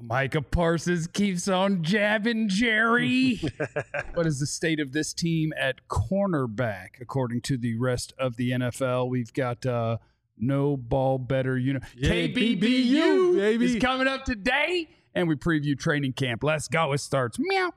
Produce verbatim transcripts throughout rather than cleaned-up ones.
Micah Parsons keeps on jabbing Jerry. What is the state of this team at cornerback, according to the rest of the N F L? We've got uh, no ball better. You know, Yeah, K B B U baby. is coming up today, and we preview training camp. Let's go. It starts. Meow.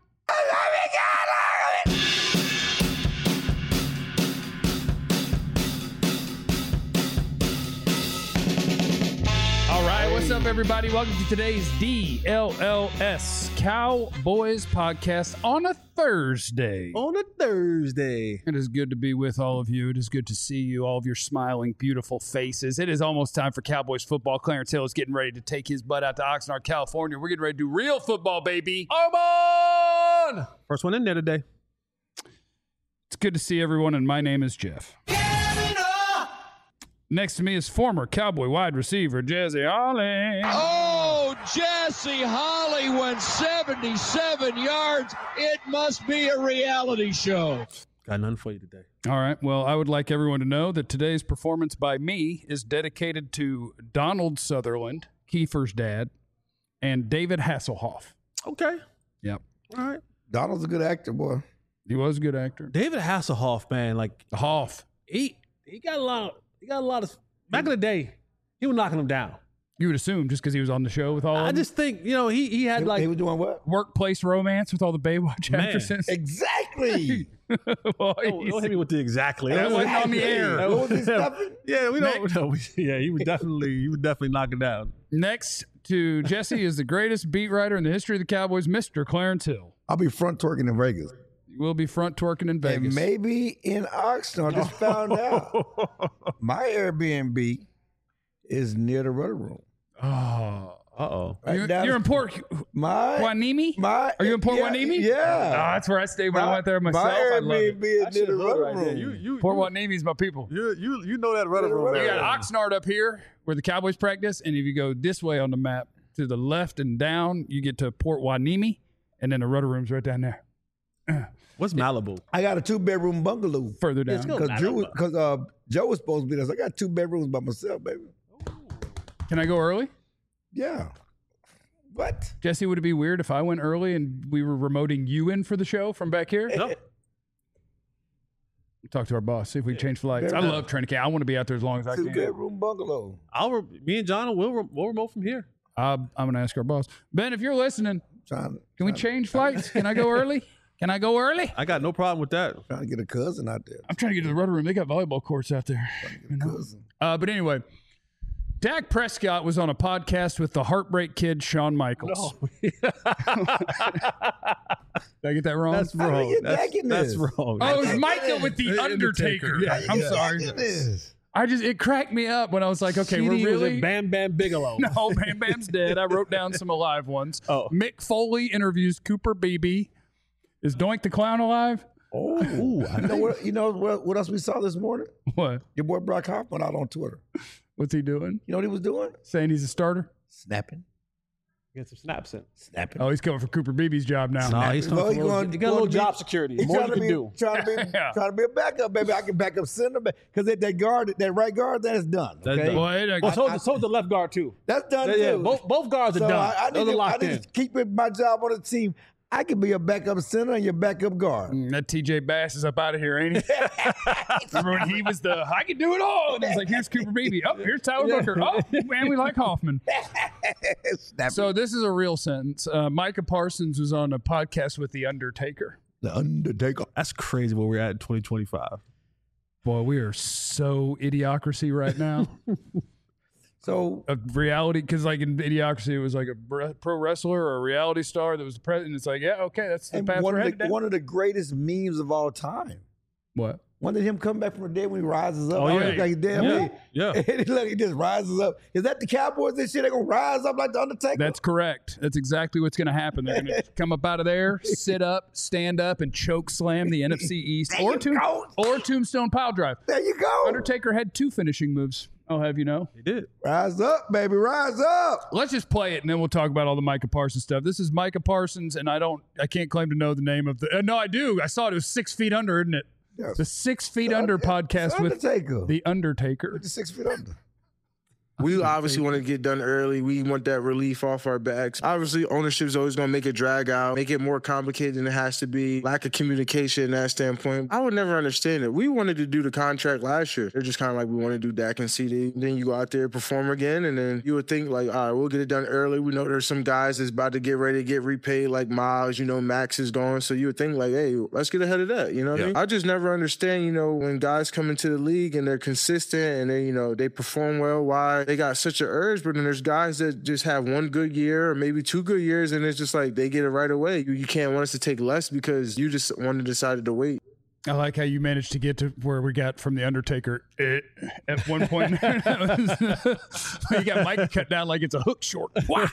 All right, what's up, everybody? Welcome to today's D L L S Cowboys podcast on a Thursday. On a Thursday. It is good to be with all of you. It is good to see you, all of your smiling, beautiful faces. It is almost time for Cowboys football. Clarence Hill is getting ready to take his butt out to Oxnard, California. We're getting ready to do real football, baby. Armon! First one in there today. It's good to see everyone, and my name is Jeff. Next to me is former Cowboy wide receiver Jesse Holly. Oh, Jesse Holly went seventy-seven yards. It must be a reality show. Got nothing for you today. All right. Well, I would like everyone to know that today's performance by me is dedicated to Donald Sutherland, Kiefer's dad, and David Hasselhoff. Okay. Yep. All right. Donald's a good actor, boy. He was a good actor. David Hasselhoff, man, like Hoff. he he got a lot. He got a lot of back in the day. He was knocking them down. You would assume just because he was on the show with all I of them? just think you know he he had He, like he was doing what? Workplace romance with all the Baywatch Man. actresses. Exactly. Well, don't, he's- don't hit me with the exactly. That wasn't on the air. That What was he yeah, stuffing? yeah, we don't. No, we, yeah, he would definitely he would definitely knock it down. Next to Jesse is the greatest beat writer in the history of the Cowboys, Mister Clarence Hill. I'll be front twerking in Vegas. We'll be front twerking in And Vegas. maybe in Oxnard. I just found out. My Airbnb is near the rudder room. Oh. Uh oh. Right You're, down you're in the- Port My, Huanimi? my, Are you in Port yeah, Huanimi? Yeah. Oh, that's where I stayed when I went there myself. My I love it. Airbnb is That near shit the hood rudder right there. room. You you Port you, Huanimi's my people. you you you know that rudder room. You there. got Oxnard up here where the Cowboys practice, and if you go this way on the map to the left and down, you get to Port Huanimi, and then the rudder room's right down there. What's Malibu? I got a two bedroom bungalow. Further Let's down. go. Because Drew, because uh, Joe was supposed to be there. So I got two bedrooms by myself, baby. Can I go early? Yeah. What? Jesse, would it be weird if I went early and we were remoting you in for the show from back here? No. Talk to our boss, see if we can change flights. Fair I enough. love training camp. I want to be out there as long as I Two can. bedroom bungalow. I'll re- me and John will re- we'll remote from here. Uh, I'm going to ask our boss. Ben, if you're listening, Trying, can we change flights? Can I go early? Can I go early? I got no problem with that. trying to get a cousin out there. I'm trying to get to the rudder room. They got volleyball courts out there. You know? Cousin. Uh, but anyway, Dak Prescott was on a podcast with the Heartbreak Kid, Shawn Michaels. Did I get that wrong? That's How do wrong. you get That's, back in that's this? wrong. oh, it was Undertaker. Micah with the The Undertaker. Undertaker. Yeah, I'm Yeah, sorry. it is. I just it cracked me up when I was like, okay, C D we're was really at Bam Bam Bigelow. no Bam Bam's dead. I wrote down some alive ones. Oh. Mick Foley interviews Cooper Beebe. Is Doink the Clown alive? Oh, you know what? You know what, what else we saw this morning? What? Your boy Brock Hoffman out on Twitter. What's he doing? You know what he was doing? Saying he's a starter? Snapping, Get some snaps in. snapping. Oh, he's coming for Cooper Beebe's job now. No, he's Well, coming he for a little, going- you got a little going to be- job security. He More trying you to can be do. trying to be Yeah. trying to be a backup, baby. I can back up center because that, that guard, that right guard, that is done. That's Okay, done. Well, it, Oh, so, so is the left guard too. that's done Yeah, too. yeah, both both guards are so done. I, I, Those need are to, I locked need in. to keep it, my job on the team. I can be a backup center and your backup guard. Mm, that T J Bass is up out of here, ain't he? Remember when he was the, I can do it all. And he's like, here's Cooper Beebe. Oh, here's Tyler Booker. Oh, man, we like Hoffman. Snapping. So this is a real sentence. Uh, Micah Parsons was on a podcast with The Undertaker. The Undertaker. That's crazy where we're at in twenty twenty-five. Boy, we are so idiocracy right now. So A reality, because like in idiocracy, it was like a bre- pro wrestler or a reality star that was the president. It's like, yeah, okay, that's the and path one we're of, headed the, down. one of the greatest memes of all time. What? One of him come back from the dead when he rises up. Oh, I yeah. look like he's dead. Yeah. man. Yeah. And look, he just rises up. Is that the Cowboys this year? They're gonna rise up like the Undertaker? That's correct. That's exactly what's going to happen. They're going to come up out of there, sit up, stand up, and choke slam the N F C East There or, you tomb- go. or Tombstone Pile Drive. There you go. Undertaker had two finishing moves. I'll have you know. He did. Rise up, baby. Rise up. Let's just play it, and then we'll talk about all the Micah Parsons stuff. This is Micah Parsons, and I don't, I can't claim to know the name of the. Uh, no, I do. I saw it. It was Six Feet Under, isn't it? Yes. The Six Feet The Under Under- podcast The with Undertaker. the Undertaker. With the six feet under. We obviously want to get done early. We want that relief off our backs. Obviously, ownership is always going to make it drag out, make it more complicated than it has to be. Lack of communication in that standpoint. I would never understand it. We wanted to do the contract last year. They're just kind of like, we want to do Dak and C D. Then you go out there, perform again, and then you would think like, all right, we'll get it done early. We know there's some guys that's about to get ready to get repaid, like Miles, you know, Max is going. So you would think like, hey, let's get ahead of that. You know what yeah. I mean? I just never understand, you know, when guys come into the league and they're consistent and they, you know, they perform well, why they got such an urge, but then there's guys that just have one good year or maybe two good years and it's just like they get it right away. You, you can't want us to take less because you just wanted decided to wait. I like how you managed to get to where we got from The Undertaker eh, at one point. was, you got Mike cut down like it's a hook short.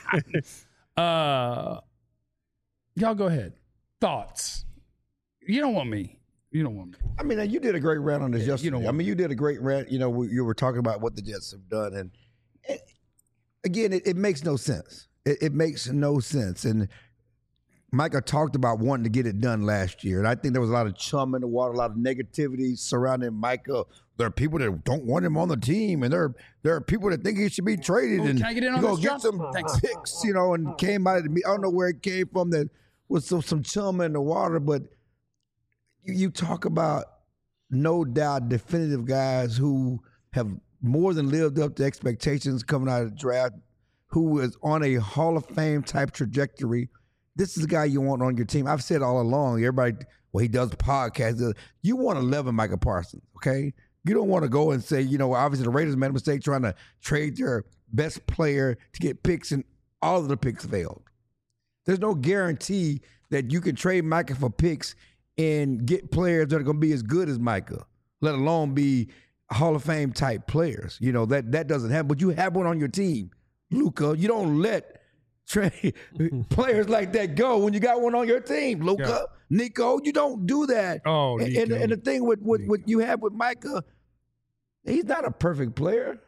uh, y'all go ahead. Thoughts? You don't want me. You don't want me. I mean, you did a great rant on this yeah, yesterday. You don't I mean, you did a great rant. You know, you were talking about what the Jets have done. And, and again, it, it makes no sense. It, it makes no sense. And Micah talked about wanting to get it done last year. And I think there was a lot of chum in the water, a lot of negativity surrounding Micah. There are people that don't want him on the team. And there are, there are people that think he should be traded. Oh, and can I get in on go this, get John? some Thanks. picks, you know, and came out of me. I don't know where it came from that was some, some chum in the water. But you, you talk about no doubt definitive guys who have more than lived up to expectations coming out of the draft, who is on a Hall of Fame type trajectory. This is the guy you want on your team. I've said all along, everybody, well, he does podcasts. You want eleven Micah Parsons, okay? You don't want to go and say, you know, obviously the Raiders made a mistake trying to trade their best player to get picks, and all of the picks failed. There's no guarantee that you can trade Micah for picks and get players that are going to be as good as Micah, let alone be Hall of Fame type players. You know, that that doesn't happen. But you have one on your team, Luka. You don't let trade players like that go when you got one on your team, Luka. Yeah. Nico, you don't do that. Oh, and, and, and the thing with what you have with Micah, he's not a perfect player.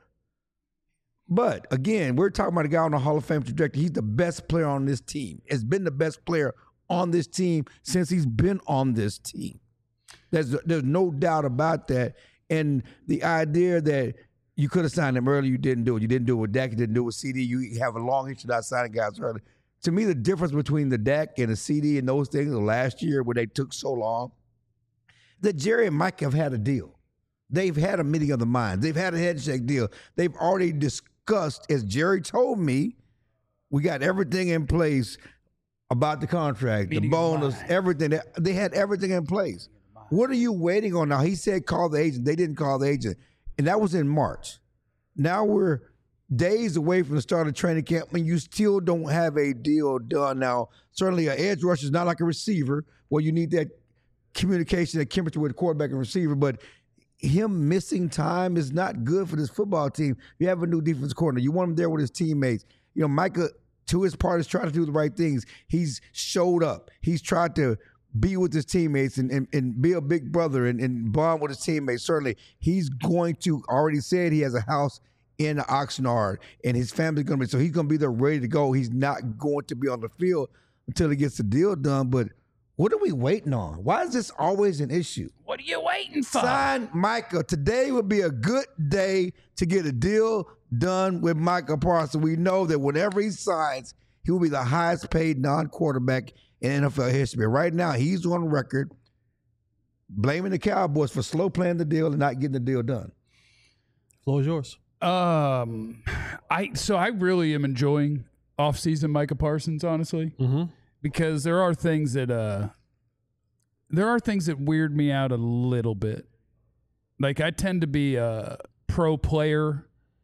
But, again, we're talking about a guy on the Hall of Fame trajectory. He's the best player on this team. Has been the best player on this team since he's been on this team. There's there's no doubt about that. And the idea that you could have signed him early, you didn't do it. You didn't do it with Dak, you didn't do it with C D. You have a long history not signing guys early. To me, the difference between the Dak and the C D and those things last year where they took so long, that Jerry and Mike have had a deal. They've had a meeting of the minds. They've had a handshake deal. They've already discussed, as Jerry told me, we got everything in place about the contract, meeting the bonus, everything. They had everything in place. What are you waiting on now? He said call the agent. They didn't call the agent. And that was in March. Now we're days away from the start of training camp and you still don't have a deal done. Now, certainly an edge rusher is not like a receiver where you need that communication, that chemistry with the quarterback and receiver, but him missing time is not good for this football team. You have a new defensive coordinator. You want him there with his teammates. You know, Micah, to his part, is trying to do the right things. He's showed up. He's tried to be with his teammates and, and, and be a big brother and, and bond with his teammates. Certainly, he's going to, already said he has a house in Oxnard, and his family's going to be, so he's going to be there ready to go. He's not going to be on the field until he gets the deal done, but what are we waiting on? Why is this always an issue? What are you waiting for? Sign Micah. Today would be a good day to get a deal done with Micah Parsons. We know that whenever he signs, he will be the highest paid non-quarterback in N F L history. Right now, he's on record blaming the Cowboys for slow playing the deal and not getting the deal done. Floor is yours. Um, I so I really am enjoying off-season Micah Parsons, honestly, mm-hmm. because there are things that uh, there are things that weird me out a little bit. Like I tend to be a pro player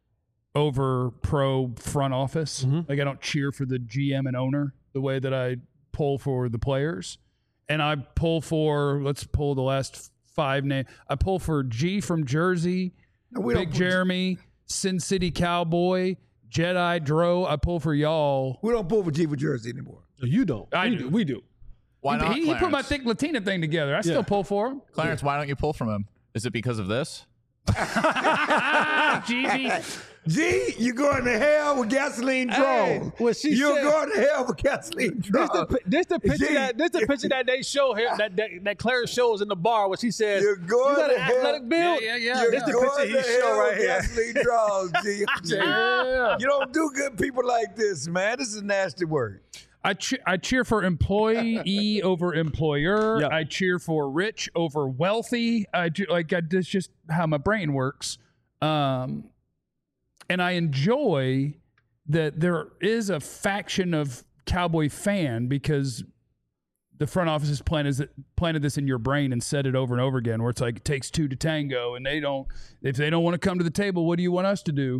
over pro front office. Mm-hmm. Like I don't cheer for the G M and owner the way that I pull for the players. And I pull for, let's pull the last five names. I pull for G from Jersey, no, Big Jeremy, G- Sin City Cowboy, Jedi Dro. I pull for y'all. We don't pull for G for Jersey anymore. No, you don't. I we do. do. We do. Why he, not, he, he put my thick Latina thing together. I yeah. still pull for him. Clarence, yeah. Why don't you pull from him? Is it because of this? G B. G, you going to hell with gasoline Hey, draws. what she You're said- going to hell with gasoline This draws. the, this the picture G, that this the picture that they show here that that, that Clarence shows in the bar where she says, You're going "You got an to hell." athletic build." Yeah, yeah, yeah. You're This the going picture he to show hell right with here. gasoline draws, G. G. Yeah. You don't do good people like this, man. This is nasty work. I che- I cheer for employee over employer. Yep. I cheer for rich over wealthy. I do, like I, that's just how my brain works. Um, and I enjoy that there is a faction of Cowboy fan because the front office has planted, planted this in your brain and said it over and over again, where it's like it takes two to tango, and they don't. If they don't want to come to the table, what do you want us to do?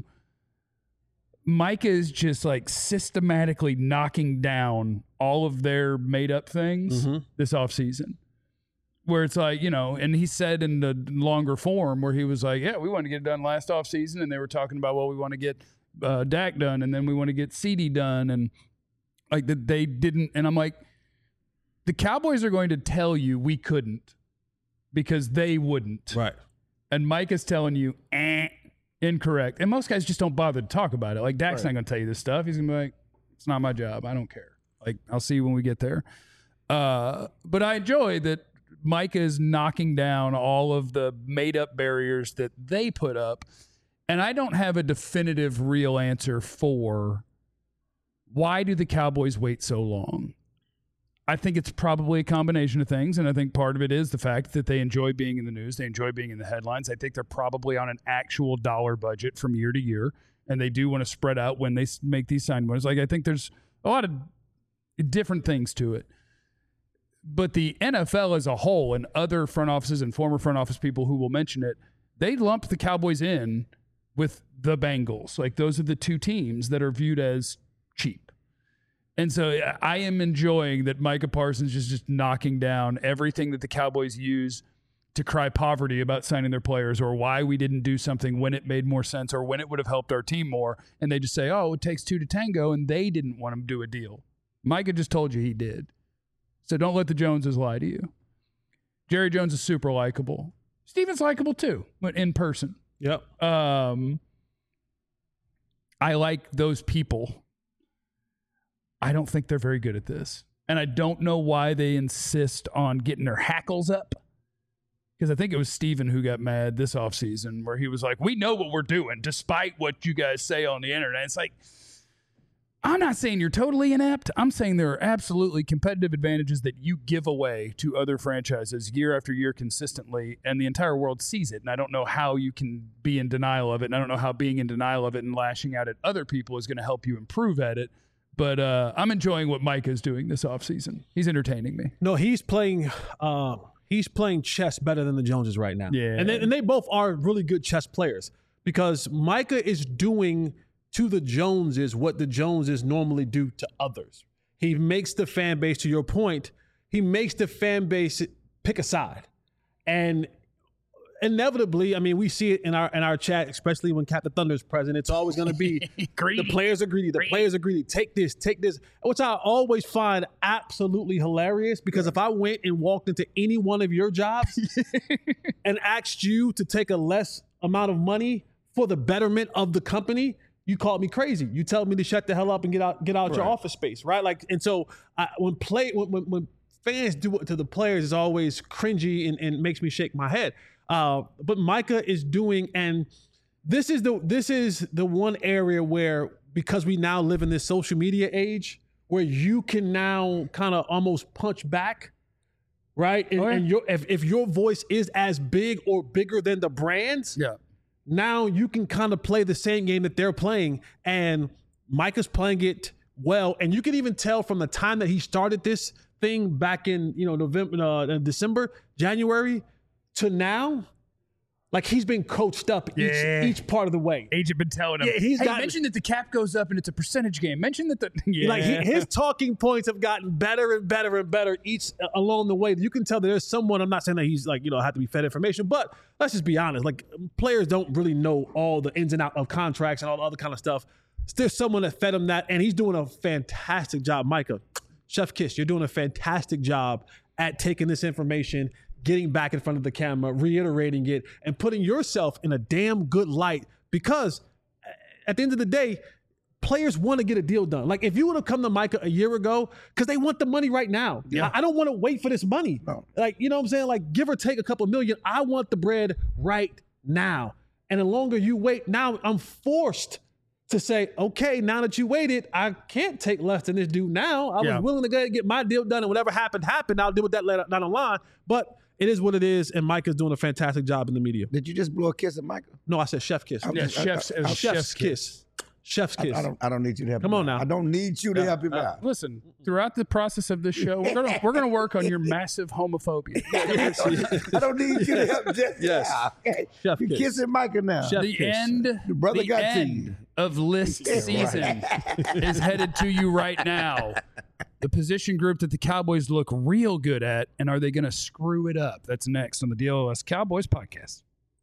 Micah is just like systematically knocking down all of their made up things Mm-hmm. this offseason. Where it's like, you know, and he said in the longer form where he was like, yeah, we wanted to get it done last offseason. And they were talking about, well, we want to get uh, Dak done, and then we want to get C D done. And like that they didn't. And I'm like, the Cowboys are going to tell you we couldn't because they wouldn't. Right. And Mike is telling you, eh. Incorrect. And most guys just don't bother to talk about it. Like, Dak's Right. not going to tell you this stuff. He's going to be like, it's not my job. I don't care. Like, I'll see you when we get there. Uh, but I enjoy that Micah is knocking down all of the made-up barriers that they put up. And I don't have a definitive real answer for why do the Cowboys wait so long? I think it's probably a combination of things, and I think part of it is the fact that they enjoy being in the news. They enjoy being in the headlines. I think they're probably on an actual dollar budget from year to year, and they do want to spread out when they s- make these sign bonus. Like, I think there's a lot of different things to it. But the N F L as a whole and other front offices and former front office people who will mention it, they lumped the Cowboys in with the Bengals. Like, those are the two teams that are viewed as cheap. And so I am enjoying that Micah Parsons is just knocking down everything that the Cowboys use to cry poverty about signing their players, or why we didn't do something when it made more sense or when it would have helped our team more. And they just say, oh, it takes two to tango, and they didn't want him to do a deal. Micah just told you he did. So don't let the Joneses lie to you. Jerry Jones is super likable. Steven's likable too, but in person. Yep. Um, I like those people. I don't think they're very good at this. And I don't know why they insist on getting their hackles up. Because I think it was Steven who got mad this offseason where he was like, we know what we're doing despite what you guys say on the internet. It's like, I'm not saying you're totally inept. I'm saying there are absolutely competitive advantages that you give away to other franchises year after year consistently, and the entire world sees it. And I don't know how you can be in denial of it, and I don't know how being in denial of it and lashing out at other people is going to help you improve at it. But uh, I'm enjoying what Micah is doing this offseason. He's entertaining me. No, he's playing. Uh, he's playing chess better than the Joneses right now. Yeah. and they, and they both are really good chess players because Micah is doing to the Joneses what the Joneses normally do to others. He makes the fan base, to your point, he makes the fan base pick a side, and inevitably, I mean, we see it in our in our chat, especially when Captain Thunder is present. It's always going to be Greedy. the players are greedy. The Greedy. players are greedy. Take this, take this, which I always find absolutely hilarious because if I went and walked into any one of your jobs and asked you to take a less amount of money for the betterment of the company, you called me crazy. You tell me to shut the hell up and get out get out your office space, right? Like, and so I, when play when, when when fans do it to the players, it's always cringy and, and makes me shake my head. Uh, but Micah is doing, and this is the this is the one area where, because we now live in this social media age, where you can now kind of almost punch back, right? And, Oh, yeah. and your if, if your voice is as big or bigger than the brands, Yeah. now you can kind of play the same game that they're playing, and Micah's playing it well. And you can even tell from the time that he started this thing back in, you know, November, uh, December, January to now, like he's been coached up each, Yeah. each part of the way. Agent been telling him, Yeah, he's hey, got- mention that the cap goes up and it's a percentage game. Mention that the yeah. Like he, his talking points have gotten better and better and better each uh, along the way. You can tell that there's someone. I'm not saying that he's like, you know, have to be fed information, but let's just be honest. Like, players don't really know all the ins and outs of contracts and all the other kind of stuff. There's someone that fed him that, and he's doing a fantastic job. Micah, Chef Kiss, you're doing a fantastic job at taking this information, getting back in front of the camera, reiterating it, and putting yourself in a damn good light, because at the end of the day, players want to get a deal done. Like if you would have come to Micah a year ago, because they want the money right now. Yeah. I, I don't want to wait for this money. No. Like, you know what I'm saying? Like give or take a couple million. I want the bread right now. And the longer you wait, now I'm forced to say, okay, now that you waited, I can't take less than this dude now. I Yeah. was willing to go ahead and get my deal done, and whatever happened, happened. I'll deal with that later down the line. But it is what it is, and Micah's doing a fantastic job in the media. Did you just blow a kiss at Michael? No, I said chef kiss. I- Yeah, I- chef's, I- it was I- Chef's kiss. Chef's I, kiss. I don't. I don't need you to help. Come him on out. now. I don't need you to help him out. Listen, throughout the process of this show, we're gonna we're gonna work on your massive homophobia. I don't need you to help just Yes. now. Okay. Chef You're kiss. kissing Micah now. Chef The kiss. end, Your brother the got to end you. of list season is headed to you right now. The position group that the Cowboys look real good at, and are they going to screw it up? That's next on the D L O S Cowboys podcast.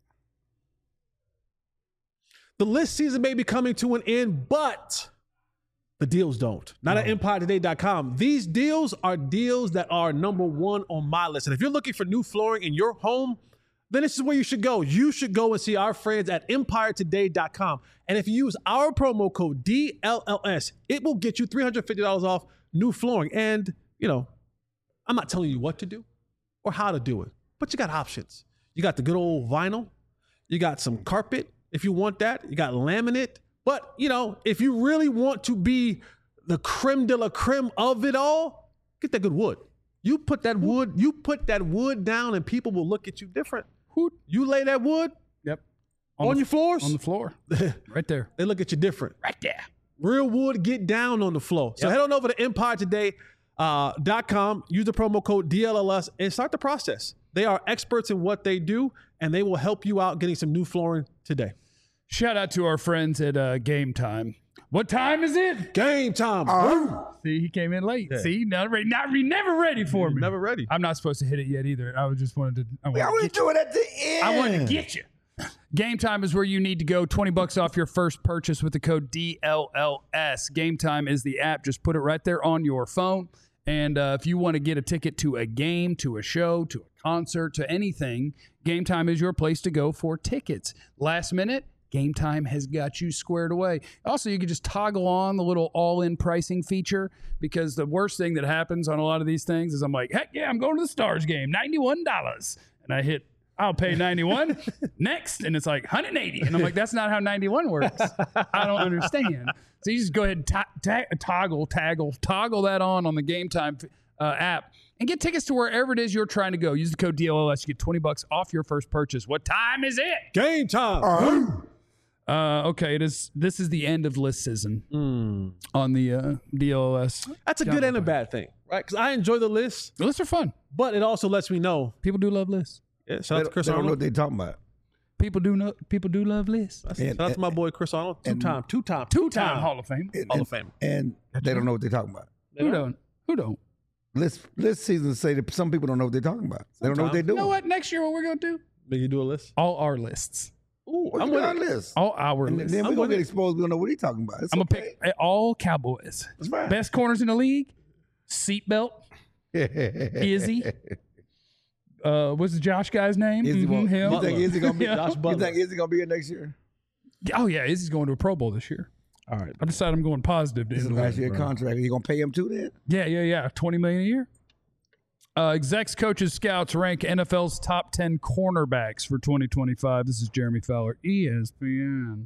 The list season may be coming to an end, but the deals don't. Not at empire today dot com. These deals are deals that are number one on my list. And if you're looking for new flooring in your home, then this is where you should go. You should go and see our friends at empire today dot com. And if you use our promo code D L L S, it will get you three hundred fifty dollars off new flooring. And, you know, I'm not telling you what to do or how to do it, but you got options. You got the good old vinyl. You got some carpet. If you want that, you got laminate. But, you know, if you really want to be the creme de la creme of it all, get that good wood. You put that wood, you put that wood down and people will look at you different. You lay that wood Yep. on, the, your floors, on the floor, right there, they look at you different. right there. Real wood, get down on the floor. So Yep. head on over to empire today dot com, use the promo code D L L S, and start the process. They are experts in what they do, and they will help you out getting some new flooring today. Shout out to our friends at uh, Game Time. What time is it? Game time. See, he came in late. See, not ready, not re- never ready for me. Never ready. I'm not supposed to hit it yet either. I was just wanted to. I I wanted to want get to do it at the end. I wanted to get you. Game Time is where you need to go. twenty bucks off your first purchase with the code D L L S. Game Time is the app. Just put it right there on your phone. And uh, if you want to get a ticket to a game, to a show, to a concert, to anything, Game Time is your place to go for tickets. Last minute, Game Time has got you squared away. Also, you can just toggle on the little all-in pricing feature, because the worst thing that happens on a lot of these things is I'm like, heck yeah, I'm going to the Stars game, ninety-one dollars. And I hit, I'll pay ninety-one next, and it's like one hundred eighty. And I'm like, that's not how ninety-one works. I don't understand. So you just go ahead and ta- ta- toggle, toggle, toggle that on on the Game Time uh, app and get tickets to wherever it is you're trying to go. Use the code D L L S. You get twenty bucks off your first purchase. What time is it? Game time. Uh, okay, it is. This is the end of list season on the uh, D L L S. That's a good and a bad thing, right? Because I enjoy the list, The lists are fun. but it also lets me know. People do love lists. Yeah, They shout out to don't, Chris they don't know what Arnold. they're talking about. People do know. People do love lists. And- Shout out to my boy Chris Arnold. Two time, two time, Two-time Hall of Fame. And, Hall and, of Fame. and they don't know what they're talking about. Who don't? Who don't? List list seasons say that some people don't know what they're talking about. They don't know what they're You doing. know what? Next year, what we're gonna do? Did you do a list? All our lists. Ooh, What's I'm on with our it. list? All our And lists. then I'm we're gonna with get it. exposed. We don't know what he's talking about. It's I'm gonna okay. pick all Cowboys. That's fine. Best corners in the league. Seatbelt. Izzy. Uh, what's the Josh guy's name? Izzy Mhm, won't- him. You think Izzy gonna be? Yeah. Josh You Butler. think Izzy gonna be here next year? Oh yeah, Izzy's going to a Pro Bowl this year. All right. I decided I'm going positive. to This is end the last year. year contract. Are you gonna pay him too then? Yeah, yeah, yeah. Twenty million a year. Uh, execs, coaches, scouts rank N F L's top ten cornerbacks for twenty twenty-five. This is Jeremy Fowler, E S P N.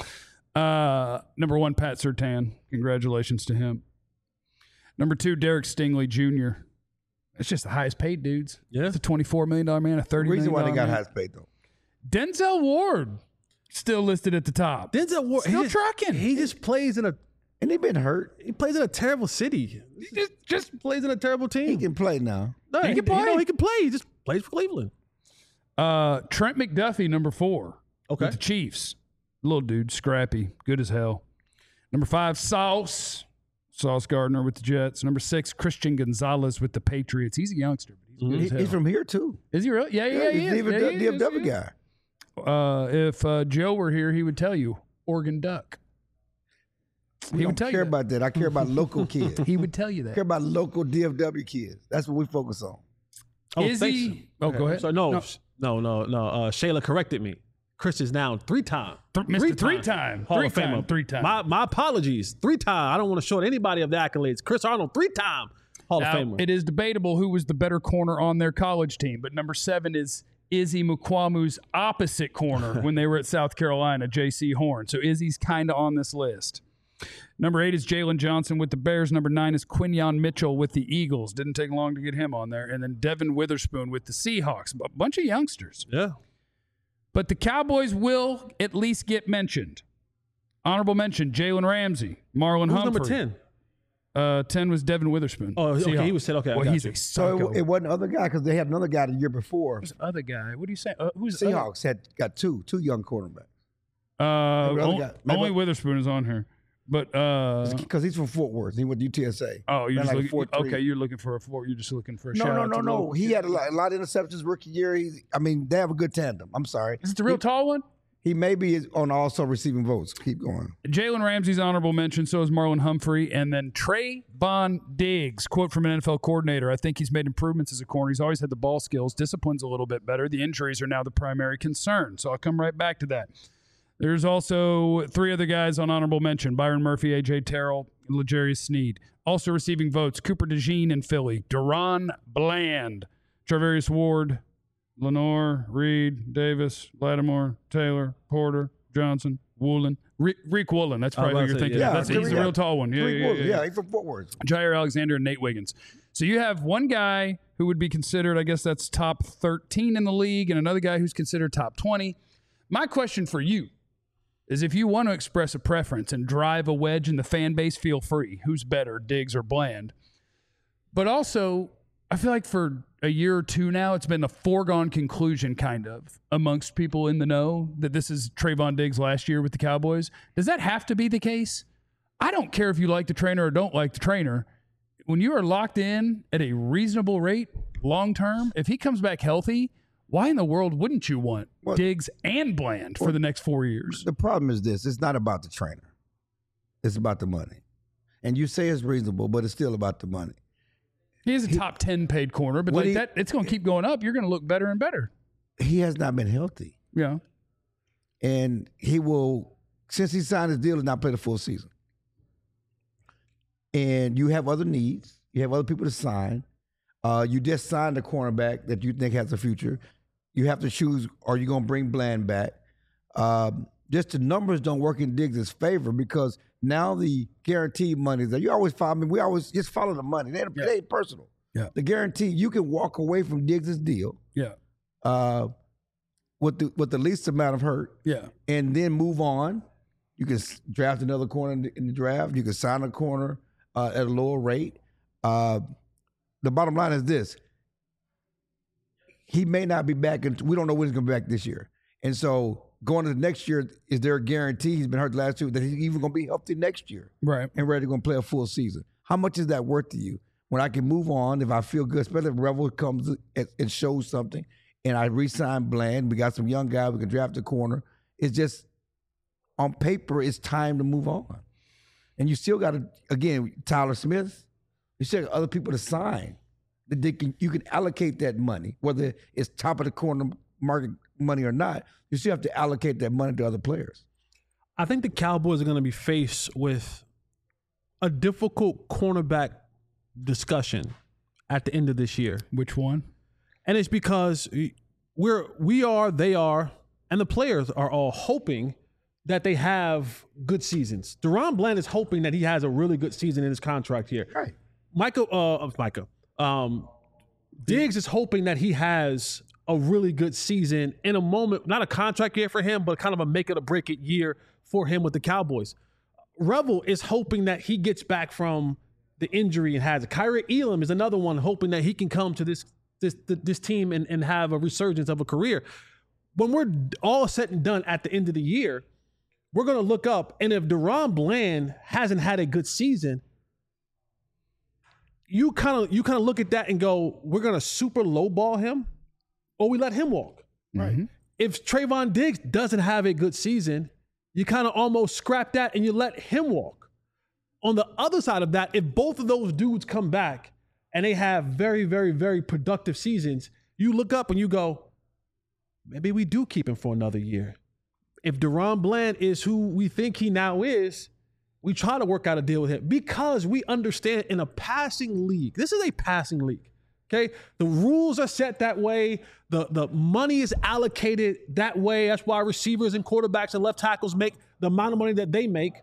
Uh, number one, Pat Surtain. Congratulations to him. Number two, Derek Stingley Junior It's just the highest paid dudes. Yeah. It's a twenty-four million dollars man, a thirty The reason million why they got man. highest paid though. Denzel Ward still listed at the top. Denzel Ward, Still he just, trucking. He just plays in a And he been hurt. he plays in a terrible city. He just, just Plays in a terrible team. He can play now. no, he can You know, play. he can play. He just plays for Cleveland. uh, Trent McDuffie, number four. Okay. With the Chiefs. Little dude, scrappy, good as hell. Number five, Sauce. Sauce Gardner with the Jets. Number six, Christian Gonzalez with the Patriots. He's a youngster, but he's good He, as hell. he's from here too. Is he really? Yeah, yeah, yeah. he's he an is. even Yeah, he D F W is, guy. yeah. Uh, if uh, Joe were here, he would tell you Oregon Duck. We He don't would tell care you that. about that. I care about local kids. He would tell you I care that. about local D F W kids. That's what we focus on. Oh, Is thanks. he? Oh, go ahead. So no, No. no, no, no. Uh, Shayla corrected me. Chris is now three-time. Th- Mister Three-time. Hall of Three-time. Famer. Three-time. My, my apologies. Three-time. I don't want to short anybody of the accolades. Chris Arnold, three-time Hall Now, of Famer. it is debatable who was the better corner on their college team, but number seven is Izzy Mukwamu's opposite corner when they were at South Carolina, J C Horn. So Izzy's kind of on this list. Number eight is Jalen Johnson with the Bears. Number nine is Quinyon Mitchell with the Eagles. Didn't take long to get him on there. And then Devin Witherspoon with the Seahawks. A bunch of youngsters. Yeah. But the Cowboys will at least get mentioned. Honorable mention, Jalen Ramsey, Marlon Who's Humphrey. number ten? Uh, ten was Devin Witherspoon. Oh, okay. Seahawks. He was said, okay. I Well, got he's you. a So psycho. it, it wasn't the other guy because they had another guy the year before. Who's the other guy? What do you say? Uh, who's the other- Seahawks had got two, two young quarterbacks. Uh, Maybe the other on- guy- maybe- only Witherspoon is on here. But uh, Because he's from Fort Worth. He went to U T S A. oh, you're Ran just like looking. four three. Okay, you're looking for a four. You're just looking for a No, shout no, out no, to no. local- He had a lot, a lot of interceptions rookie year. He, I mean, they have a good tandem. I'm sorry. Is it the real he, tall one? He maybe is on also receiving votes. Keep going. Jalen Ramsey's honorable mention. So is Marlon Humphrey, and then Trayvon Diggs. Quote from an N F L coordinator: "I think he's made improvements as a corner. He's always had the ball skills. Discipline's a little bit better. The injuries are now the primary concern." So I'll come right back to that. There's also three other guys on honorable mention: Byron Murphy, A J Terrell, L'Jarius Sneed. Also receiving votes: Cooper DeJean in Philly, Deron Bland, Charvarius Ward, Lenore, Reed, Davis, Lattimore, Taylor, Porter, Johnson, Woolen. Re- Reek Woolen. That's probably I what was you're about to say, thinking. yeah. of. That's, Yeah, he's the yeah. real tall one. Yeah, Three yeah, Wolves. yeah, yeah, yeah. he's from Fort Worth. Jair Alexander and Nate Wiggins. So you have one guy who would be considered, I guess that's top thirteen in the league, and another guy who's considered top twenty. My question for you is, if you want to express a preference and drive a wedge in the fan base, feel free. Who's better, Diggs or Bland? But also, I feel like for a year or two now, it's been a foregone conclusion kind of amongst people in the know that this is Trayvon Diggs last year with the Cowboys. Does that have to be the case? I don't care if you like the trainer or don't like the trainer. When you are locked in at a reasonable rate long term, if he comes back healthy, why in the world wouldn't you want Well, Diggs and Bland for the next four years? The problem is this: it's not about the trainer. It's about the money. And you say it's reasonable, but it's still about the money. He is a top ten paid corner, but What like he- that, it's going to keep going up. You're going to look better and better. He has not been healthy. Yeah. And he will, since he signed his deal, has not played a full season. And you have other needs. You have other people to sign. Uh, you just signed a cornerback that you think has a future. You have to choose, are you going to bring Bland back? Um, just the numbers don't work in Diggs' favor because now the guaranteed money that you always follow. I mean, we always just follow the money. They ain't, Yeah. they ain't personal. Yeah. The guarantee, you can walk away from Diggs' deal Yeah. uh, with the with the least amount of hurt Yeah. and then move on. You can s- draft another corner in the, in the draft. You can sign a corner uh, at a lower rate. Uh, the bottom line is this: he may not be back, and we don't know when he's going to be back this year. And so, going into next year, is there a guarantee he's been hurt the last two that he's even going to be healthy next year Right. and ready to go and play a full season? How much is that worth to you? When I can move on, if I feel good, especially if Revel comes and, and shows something, and I re-sign Bland, we got some young guys, we can draft a corner. It's just on paper, it's time to move on. And you still got to, again, Tyler Smith, you still got other people to sign. That they can, you can allocate that money, whether it's top of the corner market money or not. You still have to allocate that money to other players. I think the Cowboys are going to be faced with a difficult cornerback discussion at the end of this year. Which one? And it's because we're we are, they are, and the players are all hoping that they have good seasons. Deron Bland is hoping that he has a really good season in his contract here. Right. Michael, uh, Micah, um, Diggs is hoping that he has a really good season in a moment, not a contract year for him, but kind of a make it or break it year for him with the Cowboys. Revel is hoping that he gets back from the injury and has it. Kyrie Elam is another one hoping that he can come to this this this team and, and have a resurgence of a career. When we're all said and done at the end of the year, we're going to look up, and if Deron Bland hasn't had a good season, you kind of you kind of look at that and go, we're going to super lowball him, or we let him walk. Right. Mm-hmm. If Trayvon Diggs doesn't have a good season, you kind of almost scrap that and you let him walk. On the other side of that, if both of those dudes come back and they have very, very, very productive seasons, you look up and you go, maybe we do keep him for another year. if Deron Bland is who we think he now is, we try to work out a deal with him because we understand in a passing league, this is a passing league, okay? The rules are set that way. The, the money is allocated that way. That's why receivers and quarterbacks and left tackles make the amount of money that they make.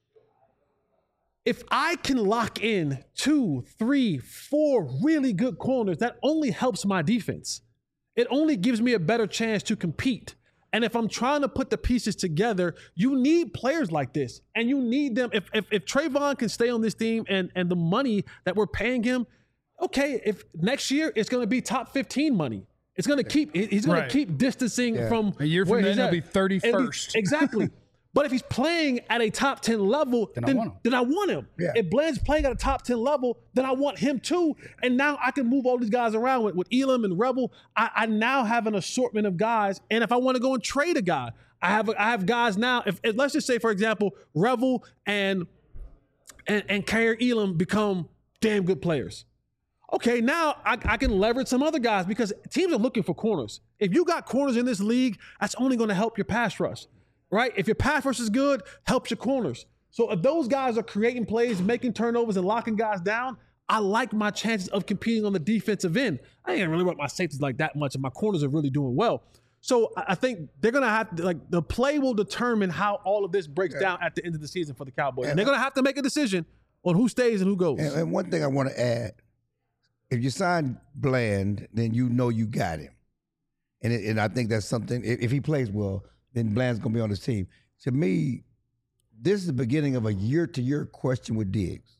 If I can lock in two, three, four really good corners, that only helps my defense. It only gives me a better chance to compete. And if I'm trying to put the pieces together, you need players like this. And you need them. If if, if Trayvon can stay on this team and, and the money that we're paying him, okay, if next year it's going to be top fifteen money. It's going to keep, he's going Right. to keep distancing Yeah. from A year from where then, he's he'll at. be thirty-first. And he- Exactly. But if he's playing at a top ten level, Then then, I want him. then I want him. Yeah. If Bland's playing at a top ten level, then I want him too. And now I can move all these guys around with, with Elam and Rebel. I, I now have an assortment of guys. And if I want to go and trade a guy, I have I have guys now. If, if let's just say, for example, Rebel and and and Kair Elam become damn good players. Okay, now I, I can leverage some other guys because teams are looking for corners. If you got corners in this league, that's only going to help your pass rush, right? If your pass rush is good, helps your corners. So if those guys are creating plays, making turnovers, and locking guys down, I like my chances of competing on the defensive end. I ain't really work my safeties like that much, and my corners are really doing well. So I I think they're gonna have to, like, the play will determine how all of this breaks down at the end of the season for the Cowboys, and they're gonna have to make a decision on who stays and who goes. And, and one thing I want to add, if you sign Bland, then you know you got him. And it, and I think that's something, if, if he plays well, then Bland's going to be on his team. To me, this is the beginning of a year-to-year question with Diggs.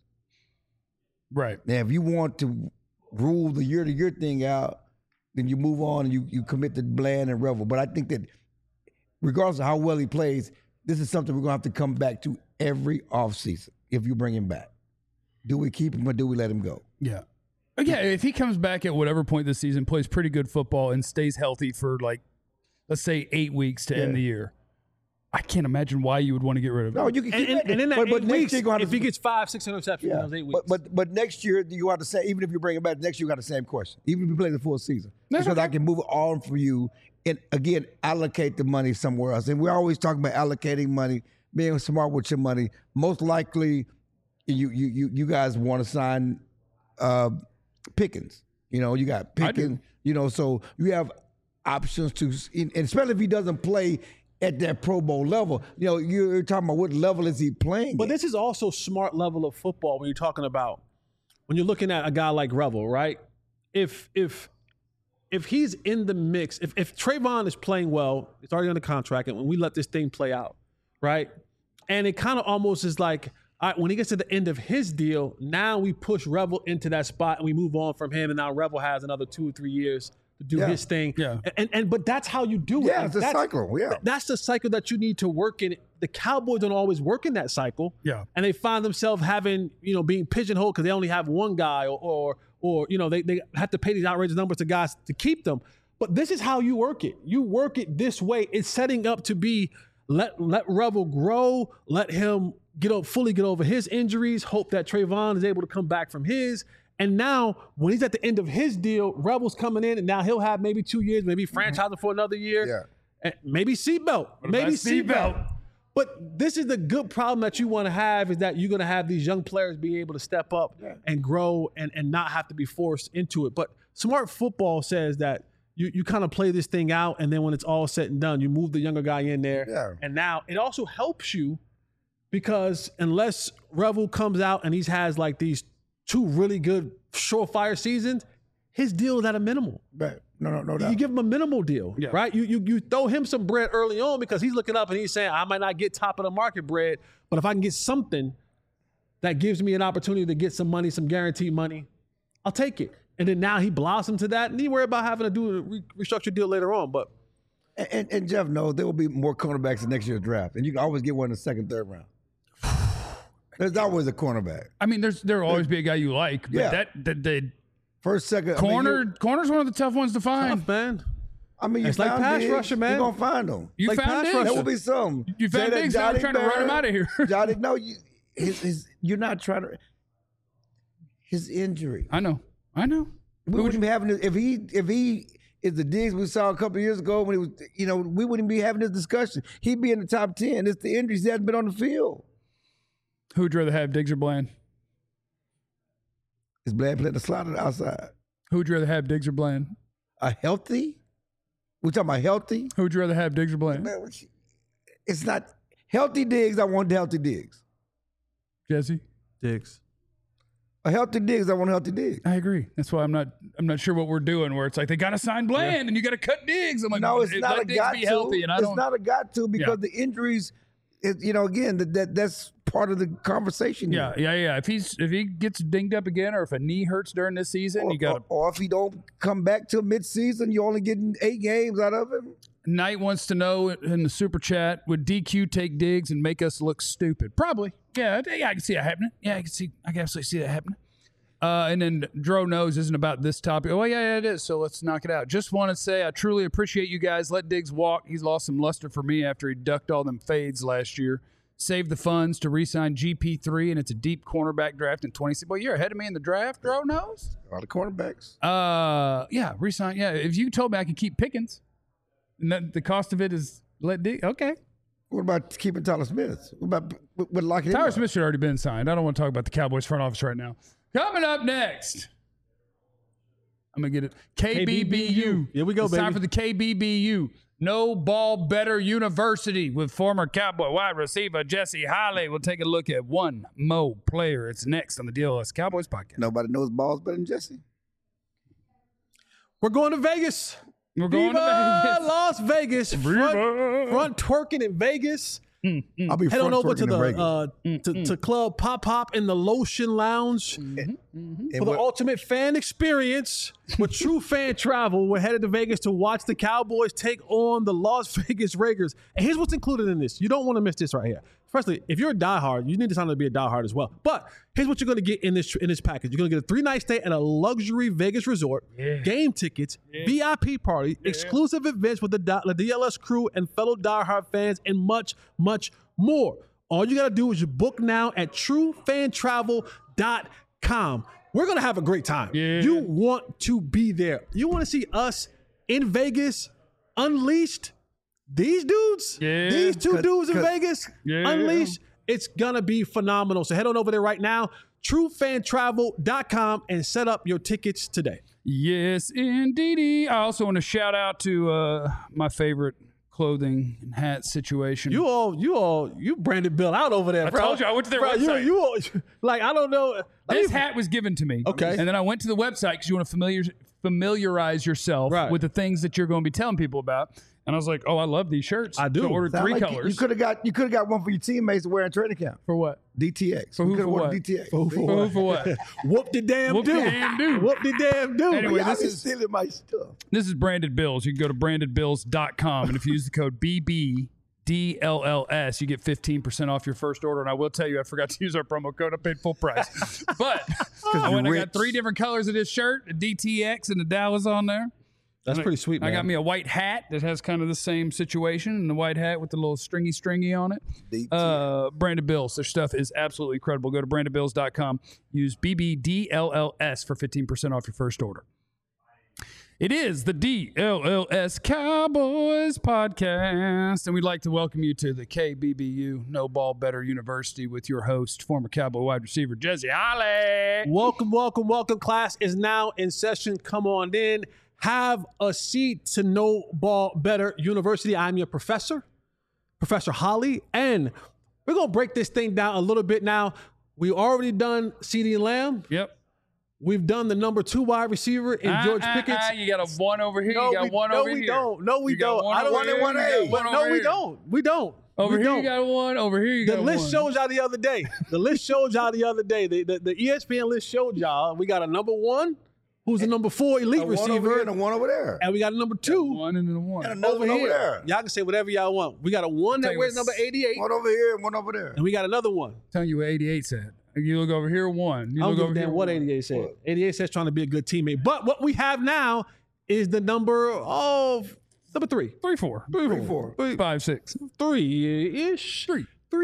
Right. Now, if you want to rule the year-to-year thing out, then you move on and you, you commit to Bland and Revel. But I think that regardless of how well he plays, this is something we're going to have to come back to every offseason if you bring him back. Do we keep him or do we let him go? Yeah. Yeah, if he comes back at whatever point this season, plays pretty good football, and stays healthy for, like, let's say eight weeks to Yeah. end the year, I can't imagine why you would want to get rid of him. No, you can And, keep and, it. and in that but, eight but next weeks, year you're gonna have if to- he gets five, six interceptions in yeah, those eight weeks. but, but but next year you have to say, even if you bring him back next year, you got the same question. Even if you play the full season, That's because okay. I can move it on for you and again allocate the money somewhere else. And we're always talking about allocating money, being smart with your money. Most likely, you you you you guys want to sign uh, Pickens. You know, you got I do. Pickens. You know, so you have options to, and especially if he doesn't play at that Pro Bowl level. You know, you're talking about what level is he playing? But at? this is also smart level of football when you're talking about, when you're looking at a guy like Revel, right? If if if he's in the mix, if if Trayvon is playing well, it's already under contract, and when we let this thing play out, right? And it kind of almost is like, all right, when he gets to the end of his deal, now we push Revel into that spot and we move on from him, and now Revel has another two or three years to do Yeah. his thing. Yeah. And and but that's how you do it. Yeah, And it's a that's- cycle, yeah. That's the cycle that you need to work in. The Cowboys don't always work in that cycle. Yeah. And they find themselves having, you know, being pigeonholed because they only have one guy, or, or, or you know, they, they have to pay these outrageous numbers to guys to keep them. But this is how you work it. You work it this way. It's setting up to be, let let Revel grow, let him get up, fully get over his injuries, hope that Trayvon is able to come back from his. And now, when he's at the end of his deal, Rebel's coming in, and now he'll have maybe two years, maybe franchise him for another year. Yeah. And maybe seatbelt, maybe about seatbelt? seatbelt. But this is the good problem that you want to have, is that you're going to have these young players be able to step up and grow and, and not have to be forced into it. But smart football says that you, you kind of play this thing out, and then when it's all said and done, you move the younger guy in there. Yeah. And now it also helps you because unless Revel comes out and he has like these two really good surefire seasons, his deal is at a minimal. Right. No, no, no doubt. You give him a minimal deal, Yeah. right? You, you you throw him some bread early on because he's looking up and he's saying, I might not get top of the market bread, but if I can get something that gives me an opportunity to get some money, some guaranteed money, I'll take it. And then now he blossomed to that, and he worry about having to do a re- restructured deal later on. But And, and, and Jeff knows there will be more cornerbacks in next year's draft, and you can always get one in the second, third round. There's always a cornerback. I mean, there's there'll always be a guy you like, but Yeah. that the, the First, second, I mean, corner you- corner's one of the tough ones to find. tough, man. I mean, you It's like found pass Diggs, rusher, man. You're gonna find them. You Like found pass Diggs. rusher. There will be some. You found Say that Diggs. Now I'm Johnny trying to run him Barr- out of here. Johnny, no, you, his, his, you're not trying to. His injury. I know. I know. We wouldn't be having to, if he if he is the Diggs we saw a couple of years ago when he was, you know, we wouldn't be having this discussion. He'd be in the top ten. It's the injuries. He hasn't been on the field. Who would you rather have, Diggs or Bland? Is Bland playing the slot or the outside? Who would you rather have, Diggs or Bland? A healthy? We talking about healthy? Who would you rather have, Diggs or Bland? Man, what you- it's not healthy Diggs. I want healthy Diggs. Jesse? Diggs. A healthy Diggs. I want healthy Diggs. I agree. That's why I'm not. I'm not sure what we're doing. Where it's like they got to sign Bland yeah. and you got to cut Diggs. I'm like, no, it's let not a Diggs got be to. healthy, and I it's don't. not a got to because Yeah. the injuries. It, you know, again, that, that that's part of the conversation. Yeah, here. yeah, yeah. If he's if he gets dinged up again, or if a knee hurts during this season, Or, you got. or, or if he don't come back till midseason, you're only getting eight games out of him. Knight wants to know in the super chat: would D Q take Diggs and make us look stupid? Probably. Yeah, yeah. I can see that happening. Yeah, I can see. I can absolutely see that happening. Uh, and then Dro knows isn't about this topic. Oh, yeah, yeah, it is. So let's knock it out. Just want to say I truly appreciate you guys. Let Diggs walk. He's lost some luster for me after he ducked all them fades last year. Saved the funds to re-sign G P three, and it's a deep cornerback draft in twenty-six. Well, you're ahead of me in the draft, Dro knows. A lot of cornerbacks. Uh, yeah, re-sign. Yeah, if you told me I could keep Pickens, and that the cost of it is let Diggs. Okay. What about keeping Tyler Smith? What about what, what locking him Tyler up? Smith should already been signed. I don't want to talk about the Cowboys front office right now. Coming up next, I'm gonna get it. K B B U. Here we go, it's baby. time for the K B B U. No Ball Better University with former Cowboy wide receiver Jesse Holley. We'll take a look at one Mo player. It's next on the D L S Cowboys podcast. Nobody knows balls better than Jesse. We're going to Vegas. We're going Viva to Vegas. Las Vegas. Front, front twerking in Vegas. Mm, mm. I'll be Head on front over to twerking the in Vegas. uh, to, to Club Pop Pop in the Lotion Lounge And for the what- ultimate fan experience with true fan travel. We're headed to Vegas to watch the Cowboys take on the Las Vegas Raiders. And here's what's included in this. You don't want to miss this right here. Especially if you're a diehard, you need to sign up to be a diehard as well. But here's what you're going to get in this in this package. You're going to get a three-night stay at a luxury Vegas resort, Yeah. game tickets, V I P party, exclusive events with the, di- the D L S crew and fellow diehard fans, and much, much more. All you got to do is you book now at true fan travel dot com. We're going to have a great time. Yeah. You want to be there. You want to see us in Vegas unleashed. These dudes, Yeah. these two Cause- dudes in cause- Vegas, Yeah. unleashed. It's going to be phenomenal. So head on over there right now, true fan travel dot com, and set up your tickets today. Yes, indeedy. I also want to shout out to uh, my favorite clothing and hat situation. You all, you all, you branded Bill out over there, I bro. told you, I went to their Bro, you- website. You, all, like, I don't know. Let This me- hat was given to me. Okay. And then I went to the website because you want to familiar, familiarize yourself Right. with the things that you're going to be telling people about. And I was like, oh, I love these shirts. I do. So I ordered Sound three like you- colors. You could have got you could have got one for your teammates to wear in training camp. for what? D T X. For We who, coulda for worn what? D T X. For who, For who, for what? Whoop the damn Whoop the do. damn do. Whoop the damn do. Anyway, Y'all this be is- stealing my stuff. This is Branded Bills. You can go to branded bills dot com. And if you use the code B B D L L S, you get fifteen percent off your first order. And I will tell you, I forgot to use our promo code. I paid full price. But I went, I you're got three rich. different colors of this shirt, a D T X and the Dallas on there. That's pretty sweet, man. I got me a white hat that has kind of the same situation, and the white hat with the little stringy stringy on it. D T X. Uh, Branded Bills. Their stuff is absolutely incredible. Go to branded bills dot com. Use B B D L L S for fifteen percent off your first order. It is the D L L S Cowboys podcast, and we'd like to welcome you to the K B B U No Ball Better University with your host, former Cowboy wide receiver Jesse Holley. Welcome, welcome, welcome. Class is now in session. Come on in. Have a seat to No Ball Better University. I'm your professor, Professor Holley, and we're going to break this thing down a little bit now. We've already done CeeDee Lamb. Yep. We've done the number two wide receiver in Ah, George ah, Pickens. ah, you got a one over here. No, you got we, one no, over we here. don't. No, we You got don't. one I don't over here, one you A. got one But no, over we here. don't. We don't. Over we here don't. you got one. Over here you The got list one. showed y'all the other day. The list showed y'all the other day. The, the, the E S P N list showed y'all. We got a number one, who's the number four elite A one over receiver, here and a one over there. and we got a number two One and then a one. And another over one here. over there. Y'all can say whatever y'all want. We got a one Tell that you wears what's- number eighty-eight, One over here and one over there. and we got another one. telling you what eighty-eight said. You look over here, one. You I don't look give over a damn here, what one. eighty-eight said. What? eighty-eight says trying to be a good teammate. But what we have now is the number of number three. Three, four. Three, Three, four. Three, Five, six. three-ish. Three. Three.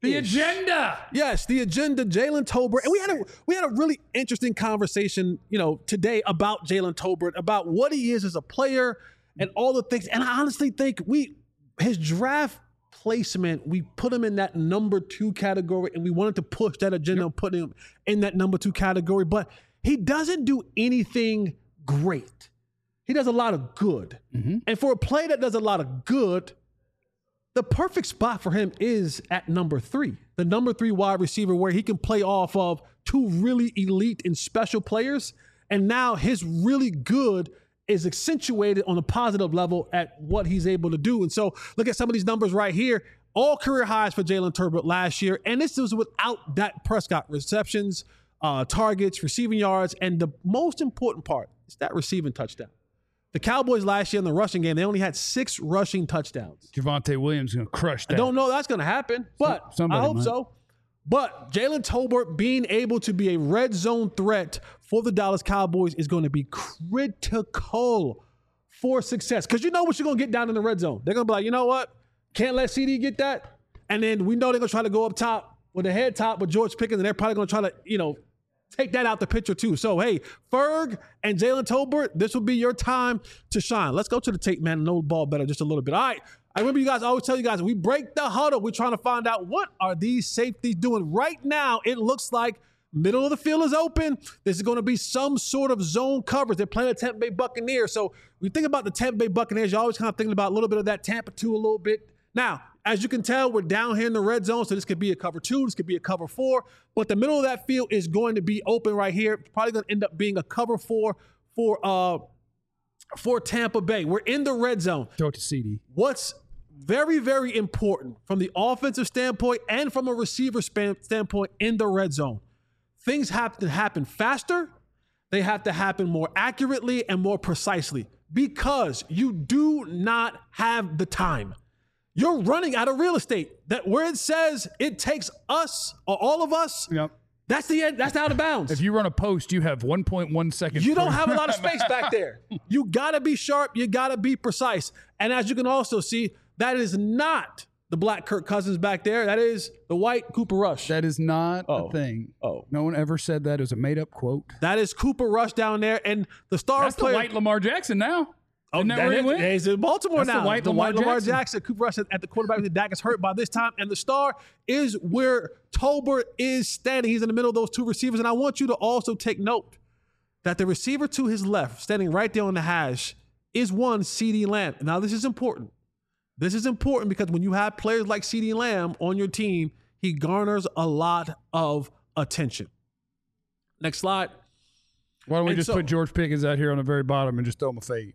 The agenda. Yes, the agenda, Jalen Tolbert. And we had a we had a really interesting conversation, you know, today about Jalen Tolbert, about what he is as a player and all the things. And I honestly think we his draft placement, we put him in that number two category, and we wanted to push that agenda, yep. put him in that number two category. But he doesn't do anything great. He does a lot of good. Mm-hmm. And for a player that does a lot of good, the perfect spot for him is at number three, the number three wide receiver, where he can play off of two really elite and special players. And now his really good is accentuated on a positive level at what he's able to do. And so look at some of these numbers right here. All career highs for Jalen Tolbert last year. And this was without Dak Prescott. Receptions, uh, targets, receiving yards. And the most important part is that receiving touchdown. The Cowboys last year in the rushing game, they only had six rushing touchdowns. Javonte Williams is going to crush that. I don't know that's going to happen, but Somebody I hope might. so. But Jalen Tolbert being able to be a red zone threat for the Dallas Cowboys is going to be critical for success. Because you know what you're going to get down in the red zone. They're going to be like, you know what? Can't let C D get that. And then we know they're going to try to go up top with the head top with George Pickens, and they're probably going to try to, you know, take that out the picture too. So, hey, Ferg and Jalen Tolbert, this will be your time to shine. Let's go to the tape, man, and know the ball better just a little bit. All right. I remember you guys I always tell you guys, we break the huddle. We're trying to find out what are these safeties doing. Right now, it looks like middle of the field is open. This is going to be some sort of zone coverage. They're playing the Tampa Bay Buccaneers. So when you think about the Tampa Bay Buccaneers, you're always kind of thinking about a little bit of that Tampa two a little bit. Now, as you can tell, we're down here in the red zone, so this could be a cover two, this could be a cover four, but the middle of that field is going to be open right here. It's probably going to end up being a cover four for uh for Tampa Bay. We're in the red zone. Throw it to C D. What's very, very important from the offensive standpoint and from a receiver span, standpoint in the red zone, things have to happen faster. They have to happen more accurately and more precisely because you do not have the time. You're running out of real estate. That where it says it takes us or all of us, yep. that's the end. That's out of bounds. If you run a post, you have one point one seconds. You don't have a lot of space back there. You got to be sharp. You got to be precise. And as you can also see, that is not the black Kirk Cousins back there. That is the white Cooper Rush. That is not oh. a thing. Oh, no one ever said that. It was a made-up quote. That is Cooper Rush down there, and the star That's player. the white Lamar Jackson now. Oh, Isn't that that where is, he went? He's in Baltimore That's now. The white, the Lamar, white Lamar Jackson. Jackson. Cooper Rush at the quarterback. The Dak is hurt by this time, and the star is where Tolbert is standing. He's in the middle of those two receivers, and I want you to also take note that the receiver to his left, standing right there on the hash, is one CeeDee Lamb. Now, this is important. This is important because when you have players like CeeDee Lamb on your team, he garners a lot of attention. Next slide. Why don't we and just so, put George Pickens out here on the very bottom and just throw him a fade?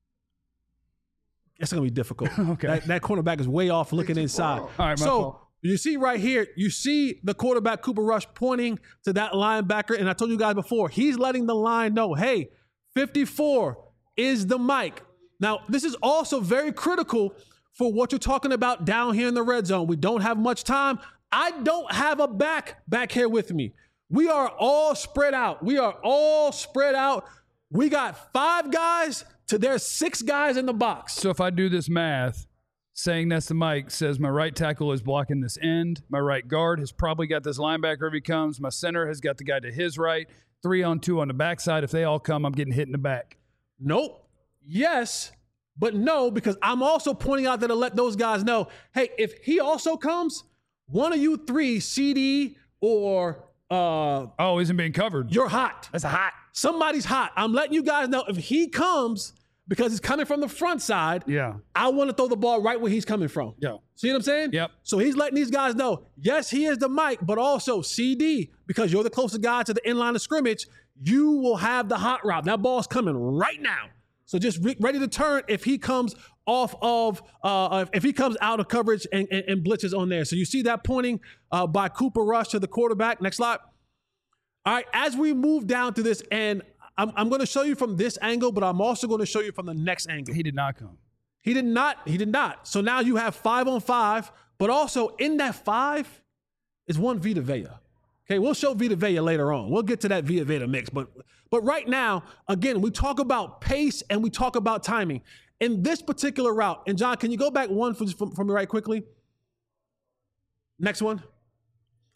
It's going to be difficult. Okay. That, that cornerback is way off looking inside. All right, my so fault. You see right here, you see the quarterback Cooper Rush pointing to that linebacker. And I told you guys before, he's letting the line know, hey, fifty-four is the mic. Now, this is also very critical for what you're talking about down here in the red zone. We don't have much time. I don't have a back back here with me. We are all spread out. We are all spread out. We got five guys to there's six guys in the box. So if I do this math, saying that's the mic says my right tackle is blocking this end. My right guard has probably got this linebacker if he comes. My center has got the guy to his right. Three on two on the backside. If they all come, I'm getting hit in the back. Nope. Yes, but no, because I'm also pointing out that to let those guys know, hey, if he also comes, one of you three, C D or uh, oh, isn't being covered. You're hot. That's hot. Somebody's hot. I'm letting you guys know if he comes, because he's coming from the front side, yeah, I want to throw the ball right where he's coming from. Yeah. See what I'm saying? Yep. So he's letting these guys know, yes, he is the mic, but also C D, because you're the closest guy to the inline of scrimmage, you will have the hot route. That ball's coming right now. So just re- ready to turn if he comes off of, uh, if he comes out of coverage and, and, and blitzes on there. So you see that pointing uh, by Cooper Rush to the quarterback. Next slide. All right, as we move down to this end, I'm, I'm going to show you from this angle, but I'm also going to show you from the next angle. He did not come. He did not. He did not. So now you have five on five, but also in that five is one Vita Vea. Okay, we'll show Vita Vea later on. We'll get to that Vita Vea mix. But, but right now, again, we talk about pace and we talk about timing. In this particular route, and John, can you go back one for, from, from me right quickly? Next one.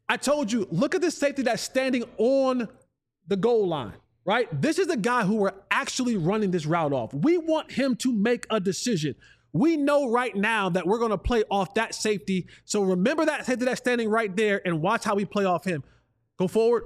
I told you, look at this safety that's standing on the goal line, right? This is the guy who we're actually running this route off. We want him to make a decision. We know right now that we're going to play off that safety. So remember that safety that's standing right there and watch how we play off him. Go forward.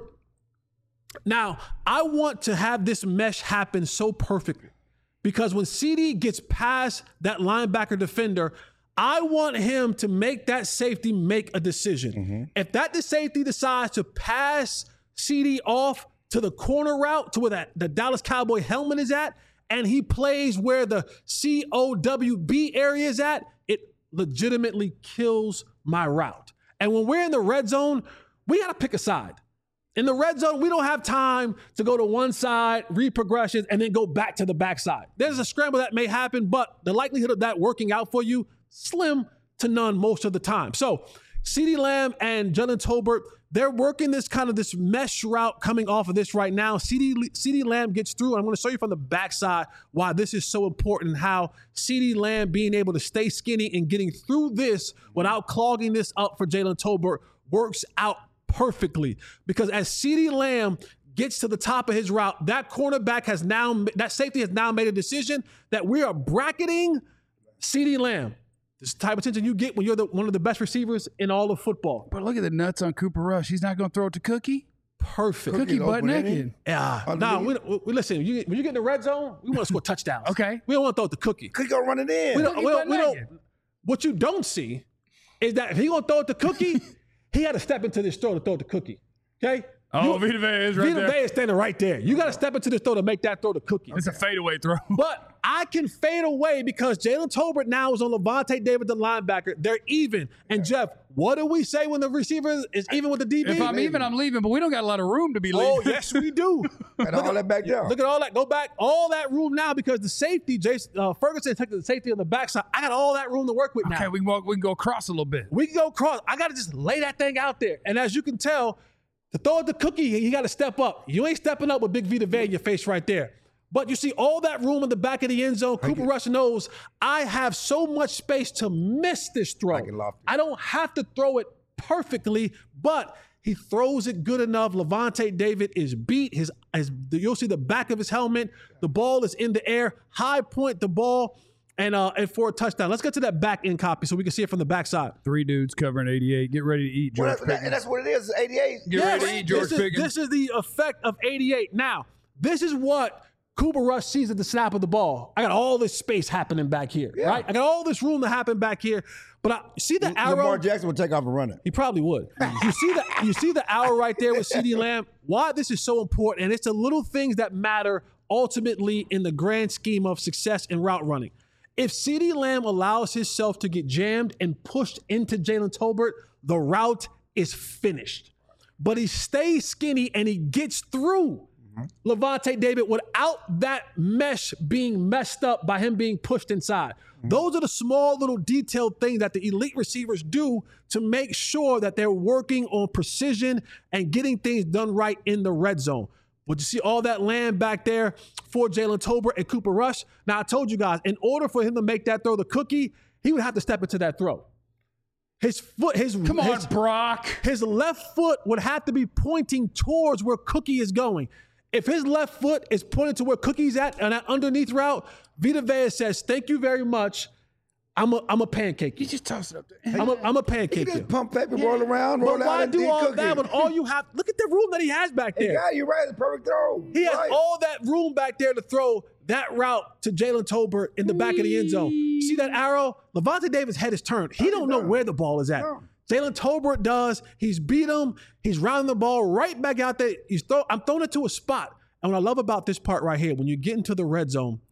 Now, I want to have this mesh happen so perfectly because when C D gets past that linebacker defender, I want him to make that safety make a decision. Mm-hmm. If that the safety decides to pass C D off to the corner route to where that the Dallas Cowboy helmet is at, and he plays where the C O W B area is at, it legitimately kills my route. And when we're in the red zone, we got to pick a side. In the red zone, we don't have time to go to one side, read progressions, and then go back to the backside. There's a scramble that may happen, but the likelihood of that working out for you, slim to none most of the time. So CeeDee Lamb and Jalen Tolbert, they're working this kind of this mesh route coming off of this right now. CeeDee, CeeDee Lamb gets through, and I'm going to show you from the backside why this is so important, how CeeDee Lamb being able to stay skinny and getting through this without clogging this up for Jalen Tolbert works out perfectly. Because as CeeDee Lamb gets to the top of his route, that cornerback has now, that safety has now made a decision that we are bracketing CeeDee Lamb. This is the type of attention you get when you're the, one of the best receivers in all of football. But look at the nuts on Cooper Rush. He's not going to throw it to Cookie. Perfect. Cookie butt naked. Yeah. No, nah, we, we, listen, you, when you get in the red zone, we want to score touchdowns. Okay. We don't want to throw it to Cookie. Cookie going to run it in. We don't, we don't, we don't, what you don't see is that if he going to throw it to Cookie, he had to step into this throw to throw it to Cookie. Okay? Oh, Vita Vea is right Vita there. Vea is standing right there. You got to step into this throw to make that throw to Cookie. It's a fadeaway throw. But I can fade away because Jalen Tolbert now is on Levante David, the linebacker. They're even. And Jeff, what do we say when the receiver is even with the D B? If I'm even, I'm leaving, but we don't got a lot of room to be leaving. Oh, yes, we do. And all that back down. Look at all that. Go back. All that room now because the safety, Jason uh, Ferguson took the safety on the backside. I got all that room to work with now. Okay, we can, walk, we can go across a little bit. We can go across. I got to just lay that thing out there. And as you can tell, to throw it to Cookie, you got to step up. You ain't stepping up with Big Vita Vea in your face right there. But you see all that room in the back of the end zone. Cooper Rush knows I have so much space to miss this throw. I, I don't have to throw it perfectly, but he throws it good enough. Levante David is beat. His, his, you'll see the back of his helmet. The ball is in the air. High point the ball. And uh, and for a touchdown. Let's get to that back end copy so we can see it from the backside. Three dudes covering eighty-eight. Get ready to eat, George well, that's, and that's what it is, eighty-eight. Get yes, ready to eat, George this is, this is the effect of eighty-eight. Now, this is what Cooper Rush sees at the snap of the ball. I got all this space happening back here, yeah. right? I got all this room to happen back here. But I see the arrow. Lamar Jackson will take off and run it. He probably would. you see the you see the arrow right there with CeeDee Lamb. Why this is so important, and it's the little things that matter ultimately in the grand scheme of success in route running. If CeeDee Lamb allows himself to get jammed and pushed into Jalen Tolbert, the route is finished. But he stays skinny and he gets through mm-hmm. Levante David without that mesh being messed up by him being pushed inside. Mm-hmm. Those are the small little detailed things that the elite receivers do to make sure that they're working on precision and getting things done right in the red zone. But you see all that land back there for Jalen Tolbert and Cooper Rush. Now, I told you guys, in order for him to make that throw to Cookie, he would have to step into that throw. His foot, his Come on, his, Brock. His left foot would have to be pointing towards where Cookie is going. If his left foot is pointing to where Cookie's at on that underneath route, Vita Vea says, thank you very much. I'm a, I'm a pancake. You just toss it up there. I'm a, I'm a pancake. You just pump paper, yeah. roll around, roll but out. Why and do all Cookie. that when all you have? Look at the room that he has back there. Yeah, you're right. It's a perfect throw. He has right. all that room back there to throw that route to Jalen Tolbert in the back of the end zone. See that arrow? Levante Davis' head is turned. He don't know where the ball is at. No. Jalen Tolbert does. He's beat him. He's rounding the ball right back out there. He's throw, I'm throwing it to a spot. And what I love about this part right here, when you get into the red zone,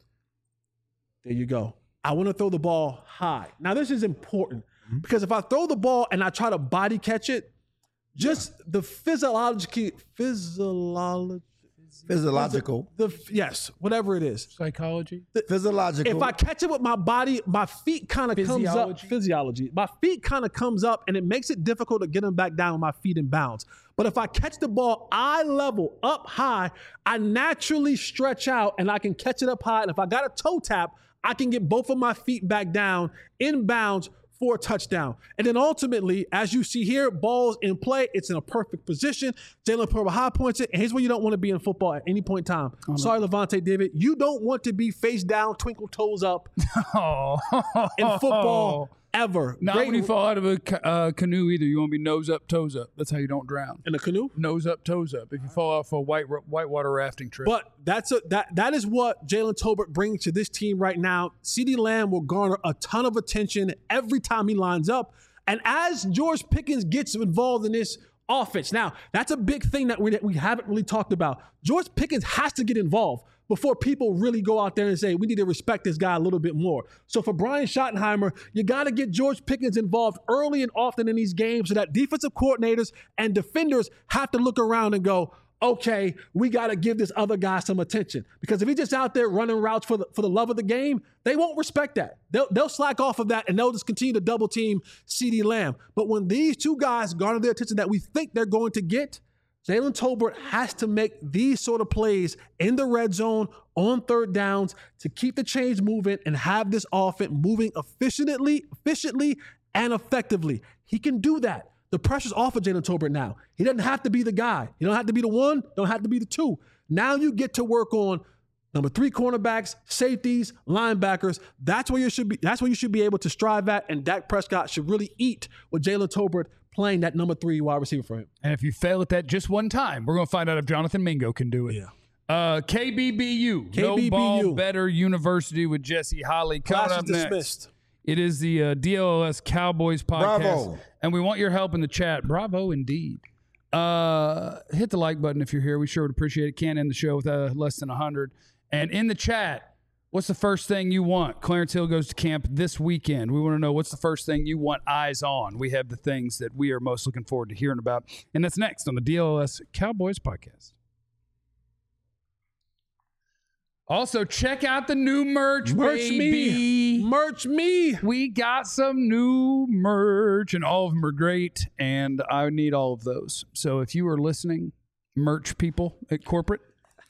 there you go. I want to throw the ball high. Now, this is important mm-hmm. because if I throw the ball and I try to body catch it, just yeah. the physiological, physiological, physiological, the, the yes, whatever it is, psychology, the, physiological. If I catch it with my body, my feet kind of comes up. Physiology. My feet kind of comes up, and it makes it difficult to get them back down with my feet in bounds. But if I catch the ball eye level, up high, I naturally stretch out, and I can catch it up high. And if I got a toe tap, I can get both of my feet back down in bounds for a touchdown. And then ultimately, as you see here, ball's in play. It's in a perfect position. Jalen Pearl high points it. And here's where you don't want to be in football at any point in time. Oh, Sorry, Levante David. You don't want to be face down, twinkle toes up oh. in football ever. Not Great. When you fall out of a uh, canoe either. You want to be nose up, toes up. That's how you don't drown. In a canoe? Nose up, toes up. If you fall off a white whitewater rafting trip. But that's a, that that is what Jalen Tolbert brings to this team right now. CeeDee Lamb will garner a ton of attention every time he lines up. And as George Pickens gets involved in this offense, now that's a big thing that we, that we haven't really talked about. George Pickens has to get involved before people really go out there and say, we need to respect this guy a little bit more. So for Brian Schottenheimer, you got to get George Pickens involved early and often in these games so that defensive coordinators and defenders have to look around and go, okay, we got to give this other guy some attention. Because if he's just out there running routes for the, for the love of the game, they won't respect that. They'll, they'll slack off of that, and they'll just continue to double team CeeDee Lamb. But when these two guys garner the attention that we think they're going to get, Jalen Tolbert has to make these sort of plays in the red zone on third downs to keep the chains moving and have this offense moving efficiently, efficiently and effectively. He can do that. The pressure's off of Jalen Tolbert now. He doesn't have to be the guy. You don't have to be the one, don't have to be the two. Now you get to work on number three cornerbacks, safeties, linebackers. That's where you should be. That's where you should be able to strive at. And Dak Prescott should really eat with Jalen Tolbert playing that number three wide receiver for him. And if you fail at that just one time, we're going to find out if Jonathan Mingo can do it. Yeah. Uh, K B B U, K B B U. No Ball Better University with Jesse Holly. Class Coming is up dismissed. Next, it is the uh, D L S Cowboys podcast. Bravo. And we want your help in the chat. Bravo, indeed. Uh, hit the like button if you're here. We sure would appreciate it. Can't end the show with uh, less than one hundred. And in the chat, what's the first thing you want? Clarence Hill goes to camp this weekend. We want to know what's the first thing you want eyes on. We have the things that we are most looking forward to hearing about. And that's next on the D L S Cowboys podcast. Also, check out the new merch, Merch baby. me. Merch me. We got some new merch, and all of them are great, and I need all of those. So if you are listening, merch people at corporate,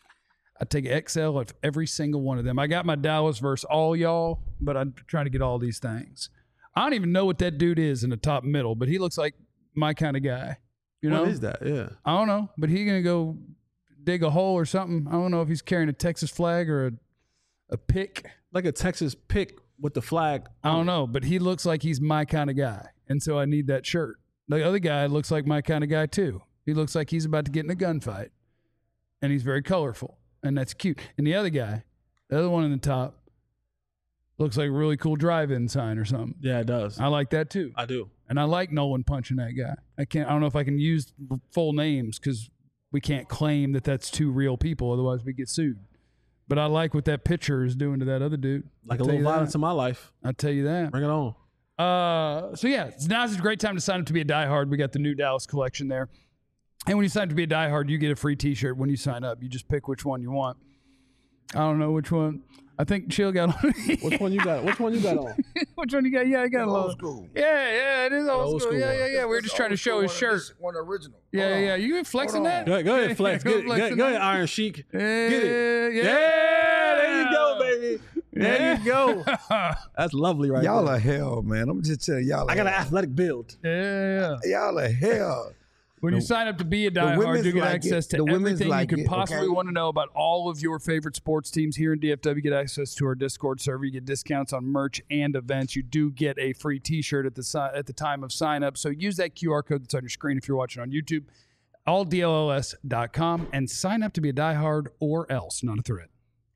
I take X L of every single one of them. I got my Dallas versus all y'all, but I'm trying to get all these things. I don't even know what that dude is in the top middle, but he looks like my kind of guy. You know? What is that? Yeah. I don't know, but he's going to go dig a hole or something. I don't know if he's carrying a Texas flag or a, a pick. Like a Texas pick with the flag. I don't know, but he looks like he's my kind of guy, and so I need that shirt. The other guy looks like my kind of guy, too. He looks like he's about to get in a gunfight, and he's very colorful. And that's cute. And the other guy, the other one in the top, looks like a really cool drive-in sign or something. Yeah, it does. I like that too. I do. And I like Nolan punching that guy. I can't. I don't know if I can use full names because we can't claim that that's two real people. Otherwise, we get sued. But I like what that pitcher is doing to that other dude. Like I'll a little violence that. in my life. I'll tell you that. Bring it on. Uh, so yeah, now's a great time to sign up to be a diehard. We got the new Dallas collection there. And when you sign up to be a diehard, you get a free T-shirt when you sign up. You just pick which one you want. I don't know which one. I think Chill got on. Which one you got? Which one you got on? Which one you got? Yeah, I got a Old old school. Yeah, yeah, it is old, Old school. school Yeah, one. yeah, yeah. We were just trying to show his shirt. One original. Yeah, Hold on. yeah. You been flexing Hold on. that? Go ahead, go ahead, Flex. Go Get it. Go, flexing go that. ahead, Iron Sheik. Yeah, Get it. yeah. Yeah, there you go, baby. There Yeah. you go. That's lovely right Y'all there. are hell, man. I'm just telling y'all. I got an hell. athletic build. Yeah. Y'all are hell. When you sign up to be a diehard, women's you get like access it. to The women's everything like you could it, possibly okay? want to know about all of your favorite sports teams here in D F W. You get access to our Discord server. You get discounts on merch and events. You do get a free T-shirt at the si- at the time of sign up. So use that Q R code that's on your screen if you're watching on YouTube. all D L S dot com and sign up to be a diehard or else. Not a threat.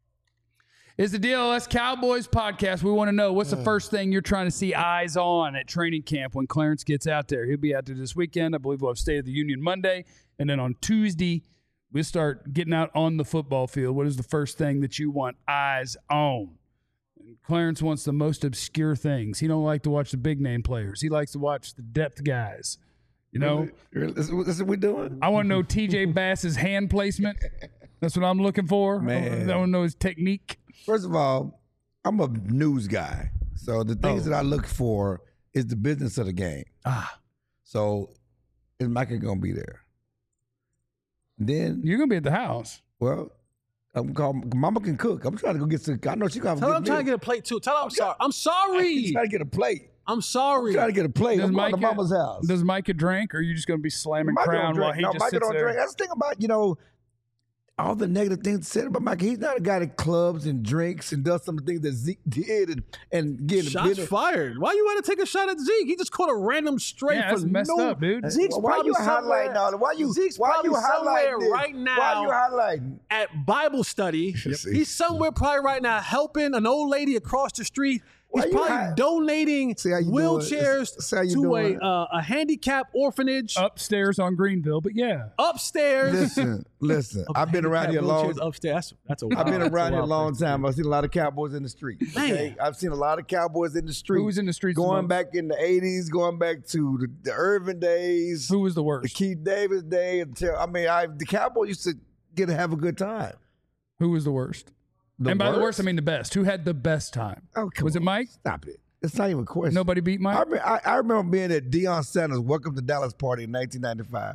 It's the D L S Cowboys podcast. We want to know what's the first thing you're trying to see eyes on at training camp when Clarence gets out there. He'll be out there this weekend. I believe we'll have State of the Union Monday. And then on Tuesday, we'll start getting out on the football field. What is the first thing that you want eyes on? And Clarence wants the most obscure things. He don't like to watch the big name players. He likes to watch the depth guys. You know? This, this is what we're doing? I want to know T J Bass's hand placement. That's what I'm looking for. Man. I want to know his technique. First of all, I'm a news guy. So the things Oh. that I look for is the business of the game. Ah, So is Micah going to be there? Then, you're going to be at the house. well, I'm called, Mama can cook. I'm trying to go get some. I know she got to Tell get him I'm trying to get a plate too. Tell him I'm sorry. I'm sorry. trying to get a plate. I'm sorry. I'm trying to get a plate. Does I'm going to Micah- mama's house. Does Micah drink, or are you just going to be slamming Micah Crown don't drink. while he no, just Micah sits don't there? drink. That's the thing about, you know, all the negative things said about Micah. He's not a guy that clubs and drinks and does some of the things that Zeke did and, and getting Shots fired. Why you want to take a shot at Zeke? He just caught a random straight Yeah, for that's messed no. up, dude. Zeke's why probably you somewhere. highlighting all that? Why you, Zeke's why probably you somewhere highlighting this? right now. Why you highlighting? At Bible study. See. He's somewhere probably right now helping an old lady across the street. Why He's you probably hi- donating See how you doing? wheelchairs See how you to doing? a uh, a handicap orphanage Upstairs on Greenville, but yeah. upstairs. Listen, listen. Okay, I've been around here handicap long. wheelchairs upstairs. That's, that's a I've been that's around here a wild long thing. time. I've seen a lot of cowboys in the street. Okay? I've seen a lot of cowboys in the street. Who was in the streets the Going most? back in the eighties, going back to the, the Irvin days, Who was the the worst? Keith Davis days. Until I mean, I the Cowboys used to get to have a good time. Who was the worst? The and by the worst? worst, I mean the best. Who had the best time? Oh, come Was it on. Mike? Stop it. It's not even a question. Nobody beat Mike? I, re- I, I remember being at Deion Sanders' Welcome to Dallas party in nineteen ninety-five.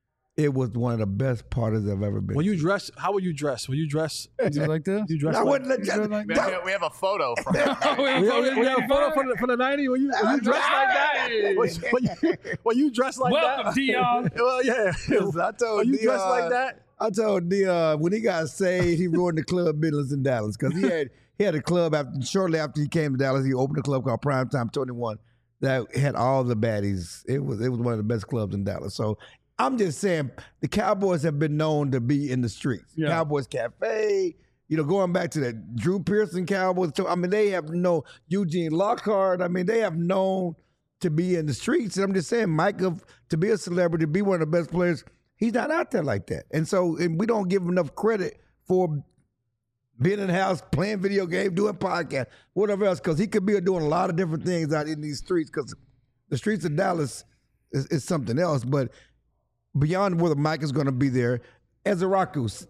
It was one of the best parties I've ever been. When to. you dress, how would you dress? Will you dress? Was it like this? You dress I like, wouldn't let you. like We have, we have a photo from Oh, we We, were we, we got a photo from the, from the nineties. When you, when you dress like that, when, when you, when you dress like Welcome, that. Dion. Well, yeah. Listen, I told When you dress Deion- like that. I told Dion when he got saved, he ruined the club business in Dallas because he had he had a club after shortly after he came to Dallas. He opened a club called Primetime twenty-one that had all the baddies. It was it was one of the best clubs in Dallas. So I'm just saying the Cowboys have been known to be in the streets. Yeah. Cowboys Cafe. You know, going back to that Drew Pearson Cowboys. So, I mean, they have known Eugene Lockhart. I mean, they have known to be in the streets. And I'm just saying, Micah, to be a celebrity, to be one of the best players, he's not out there like that. And so and we don't give him enough credit for being in the house, playing video games, doing podcasts, whatever else, because he could be doing a lot of different things out in these streets because the streets of Dallas is, is something else. But beyond whether Mike is going to be there, Ezraku,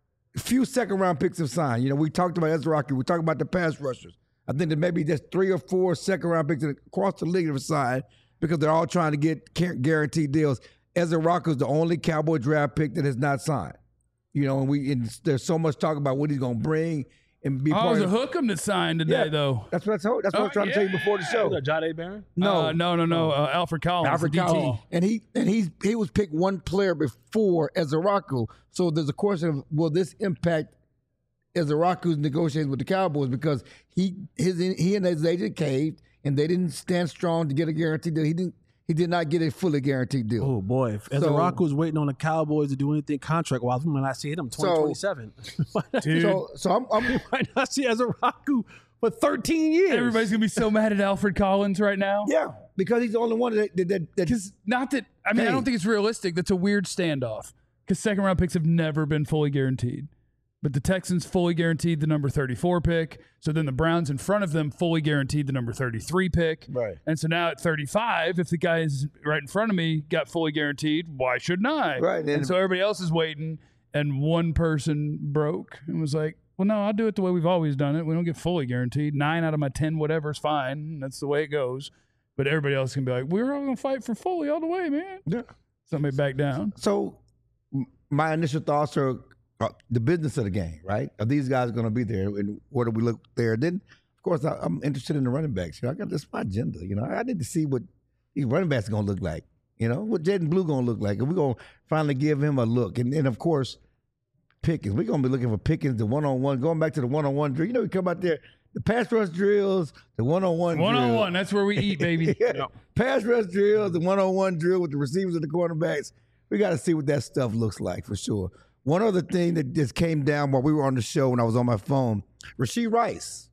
few second round picks have signed. You know, we talked about Ezraku. We talked about the pass rushers. I think that maybe just three or four second round picks across the league have signed because they're all trying to get guaranteed deals. Ezraku is the only Cowboy draft pick that has not signed. You know, and we and there's so much talk about what he's going to bring and be Oh, it part was of. a hook 'em that signed today, Yeah. though. That's what I told. That's what I was Oh, trying to tell you yeah. before the show. Was that John A. Barron? No, Uh, no, no, no. Uh, Alfred Collins. Alfred the D T. Collins. And he and he's he was picked one player before Ezraku. So there's a question of will this impact Ezraku's negotiations with the Cowboys because he his he and his agent caved and they didn't stand strong to get a guaranteed deal. He didn't he did not get a fully guaranteed deal. Oh boy, if So- Ezraku was waiting on the Cowboys to do anything contract wise, we might not see him twenty twenty-seven. Dude, So so I'm, I'm might not see Ezraku for thirteen years. everybody's going to be so mad at Alfred Collins right now. yeah because he's the only one that that, that, that Because not that, I mean, I Hey. don't think it's realistic. That's a weird standoff. Because second round picks have never been fully guaranteed. But the Texans fully guaranteed the number thirty-four pick. So then the Browns in front of them fully guaranteed the number thirty-three pick. Right. And so now at thirty-five, if the guy is right in front of me got fully guaranteed, why shouldn't I? Right, And, and- so everybody else is waiting. And one person broke and was like, well, no, I'll do it the way we've always done it. We don't get fully guaranteed. Nine out of my ten, whatever, is fine. That's the way it goes. But everybody else can be like, we're all going to fight for fully all the way, man. yeah. Somebody back down. So m- my initial thoughts are uh, the business of the game, right? Are these guys going to be there, and where do we look there? Then, of course, I, I'm interested in the running backs. You know, I got this my agenda. You know, I need to see what these running backs are going to look like. You know, what Jaden Blue going to look like, and we're going to finally give him a look. And then, of course, Pickens. We're going to be looking for Pickens, the one-on-one, going back to the one-on-one drill. You know, we come out there, the pass rush drills, the one-on-one drill. One on one. That's where we eat, baby. Yeah. Pass rush drills, the one-on-one drill with the receivers and the cornerbacks. We got to see what that stuff looks like for sure. One other thing that just came down while we were on the show when I was on my phone, Rashee Rice,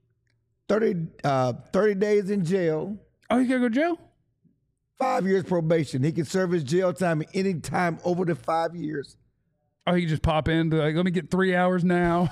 thirty, uh, thirty days in jail, Oh, you got to go to jail? five years probation. He can serve his jail time any time over the five years. Oh, you just pop in, be like, let me get three hours now.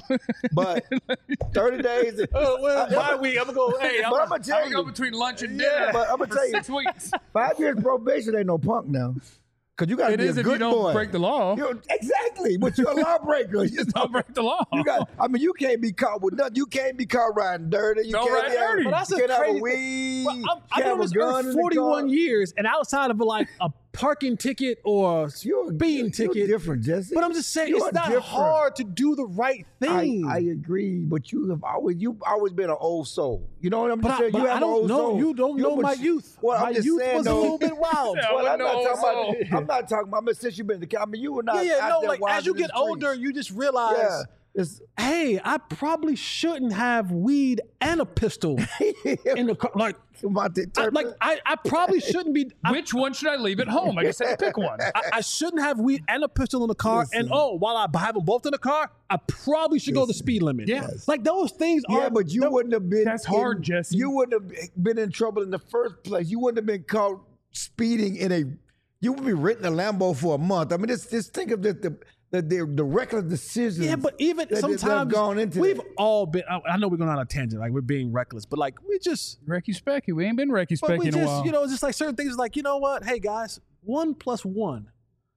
But thirty days. Oh, well, bye week. I'm gonna go. Hey, I'm, But I'm going to tell I'm going you, between lunch and Yeah, dinner but I'm gonna for tell you- six weeks. five years probation ain't no punk now. Because you got to It be is a if good you don't boy. break the law. You're- exactly, but you're a lawbreaker. You just Don't break the law. You got. I mean, you can't be caught with nothing. You can't be caught riding dirty. You Don't can't ride be dirty. Have, But that's you a can't have crazy a weed. Well, I'm, you I've can't been on have this a gun earth in the forty-one car. years, and outside of like a parking ticket or a You're, speeding you're, ticket. You're different, Jesse. But I'm just saying, You are it's not different. hard to do the right thing. I, I agree, but you have always you've always been an old soul. You know what I'm But I- saying? but you have I an don't old know. soul. You don't know but my you- youth. Well, My I'm just youth saying, was a though, little bit wild. Yeah, Well, I I'm not know talking so. about. I'm not talking about. But since you've been in the I mean, you were not. Yeah, yeah, out no. there Like wild as you in the get older, streets. you just realize, Yeah, it's hey, I probably shouldn't have weed and a pistol in the car. Like, about the I, like I, I probably shouldn't be. I, Which one should I leave at home? I just had to pick one. I, I shouldn't have weed and a pistol in the car. Listen. And oh, while I have them both in the car, I probably should go the speed limit. Yes. Like those things are. Yeah, but you that- wouldn't have been. That's hard, in- Jesse. You wouldn't have been in trouble in the first place. You wouldn't have been caught speeding in a. You would be written a Lambo for a month. I mean, just just think of the the the, the, the reckless decisions. Yeah, but even that- that have sometimes gone into we've that. all been. I, I know we're going on a tangent, like we're being reckless, but like we just, Recky Specky. We ain't been Recky but Specky we in a just, while. you know, it's just like certain things. Like you know what? Hey guys, one plus one.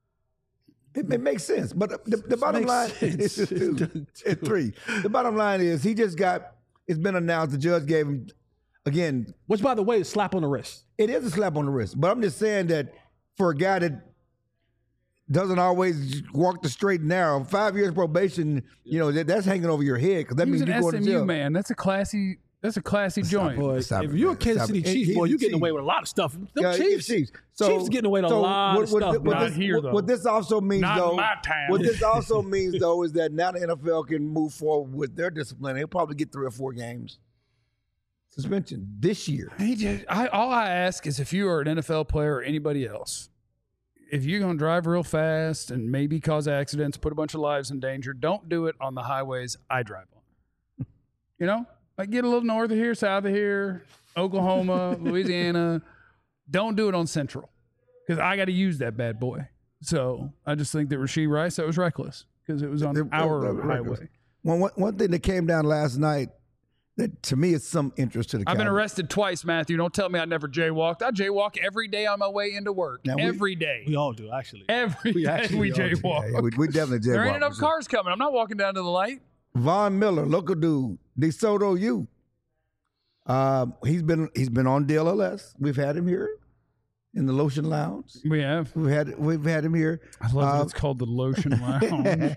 It, it makes sense. But the, the bottom makes line sense. is two, it's three. The bottom line is he just got. It's been announced. The judge gave him again. Which, by the way, is slap on the wrist. It is a slap on the wrist, but I'm just saying that for a guy that doesn't always walk the straight and narrow, five years probation, you know, that, that's hanging over your head because that he was means an you're going to S M U jail. man. That's a classy. That's a classy joint. Boy, Stop if it, you're a man. Kansas Stop City it. Chiefs, He- boy, he's you're getting Chiefs. away with a lot of stuff. Them Yeah, Chiefs, Chiefs. So, Chiefs getting away with so a lot what, of what, stuff. What, Not this, here, what, though. what this also means, Not in though, my town. what this also means, though, is that now the N F L can move forward with their discipline. They'll probably get three or four games suspension this year. He just, I, all I ask is if you are an N F L player or anybody else, if you're going to drive real fast and maybe cause accidents, put a bunch of lives in danger, don't do it on the highways I drive on. You know, like get a little north of here, south of here, Oklahoma, Louisiana. Don't do it on Central because I got to use that bad boy. So I just think that Rashee Rice, that was reckless because it was on It- our it- it- highway. One, one, one thing that came down last night that to me is some interest to the I've been Cowboys. arrested twice, Matthew. Don't tell me I never jaywalked. I jaywalk every day on my way into work. Now we- Every day. We all do, actually. Every We day actually we all do. jaywalk. Yeah, we, we definitely jaywalk. There ain't enough for sure. cars coming. I'm not walking down to the light. Von Miller, local dude, DeSoto U. Um, he's been he's been on D L L S. We've had him here in the Lotion Lounge. We have. We've had we've had him here. I love that Um, it's called the Lotion Lounge.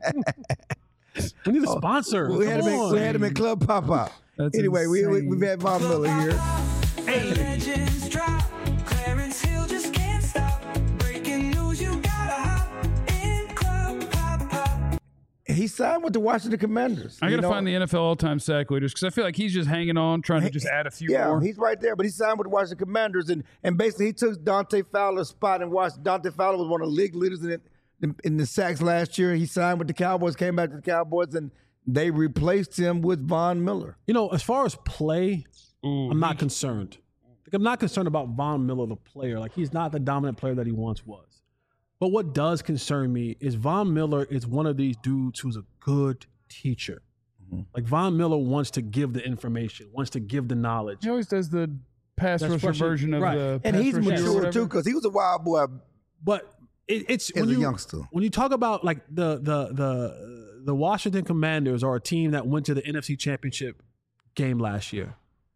We need a sponsor. We had, Come him in, we on. had him in Club Pop Up. That's Anyway, we, we, insane. we've had Von Miller here. Legends drop. Clarence Hill just can't stop. Breaking news, you gotta hop in Club Pop Pop. He signed with the Washington Commanders. I got you to know? find the N F L all-time sack leaders because I feel like he's just hanging on, trying to just add a few Yeah, more. he's right there, but he signed with the Washington Commanders, and and basically he took Dante Fowler's spot in Washington. Dante Fowler was one of the league leaders in, it, in in the sacks last year. He signed with the Cowboys, came back to the Cowboys, and they replaced him with Von Miller. You know, as far as play, I'm not concerned. Like, I'm not concerned about Von Miller, the player. Like, he's not the dominant player that he once was. But what does concern me is Von Miller is one of these dudes who's a good teacher. Like, Von Miller wants to give the information, wants to give the knowledge. He always does the pass That's rusher rushing- version of right. the And pass he's rusher or mature whatever. too, because he was a wild boy. But it, it's As when a you, youngster. when you talk about like the the the the Washington Commanders are a team that went to the N F C Championship game last year.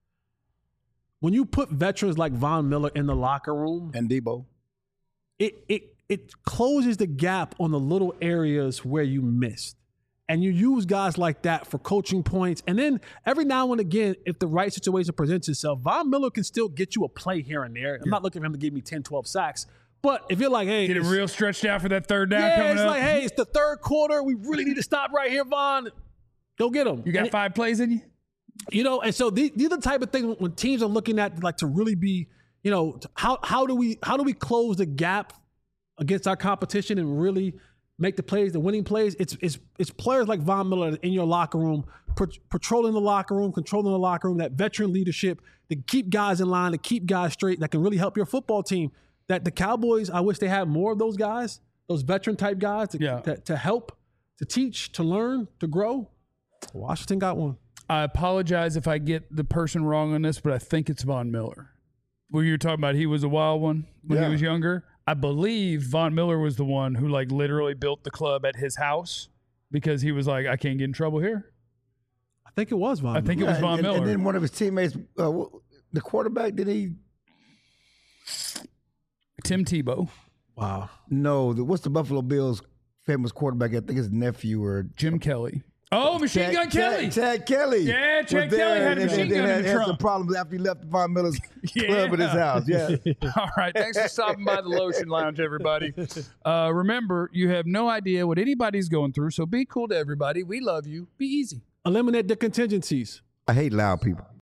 When you put veterans like Von Miller in the locker room, And Debo. it it it closes the gap on the little areas where you missed. And you use guys like that for coaching points. And then every now and again, if the right situation presents itself, Von Miller can still get you a play here and there. I'm not looking for him to give me ten, twelve sacks. But if you're like, hey, Get it it's- real stretched out for that third down yeah, coming it's up. like, hey, it's the third quarter. We really need to stop right here, Von. Go get him. You got And- five plays in you? you know, and so these, these are the type of things when teams are looking at like to really be, you know, t- how how do we how do we close the gap against our competition and really make the plays, the winning plays? It's it's it's players like Von Miller in your locker room, pat- patrolling the locker room, controlling the locker room, that veteran leadership to keep guys in line, to keep guys straight, that can really help your football team. That the Cowboys, I wish they had more of those guys, those veteran type guys to, Yeah. to, to help, to teach, to learn, to grow. Washington got one. I apologize if I get the person wrong on this, but I think it's Von Miller. Well, you were talking about he was a wild one when Yeah. he was younger. I believe Von Miller was the one who like literally built the club at his house because he was like, I can't get in trouble here. I think it was Von I think it Miller. was Von and, Miller. And then one of his teammates, uh, the quarterback, did he? Tim Tebow, Wow. No, the, what's the Buffalo Bills famous quarterback? I think his nephew or Jim Kelly. Oh, Machine Chad- Gun Chad- Kelly. Chad Kelly. Yeah, was Chad there Kelly had a and- machine and- gun and in the had some trunk. problems after he left Von Miller's Yeah. club at his house. Yeah. All right. Thanks for stopping by the Lotion Lounge, everybody. Uh, remember, you have no idea what anybody's going through, so be cool to everybody. We love you. Be easy. Eliminate the contingencies. I hate loud people.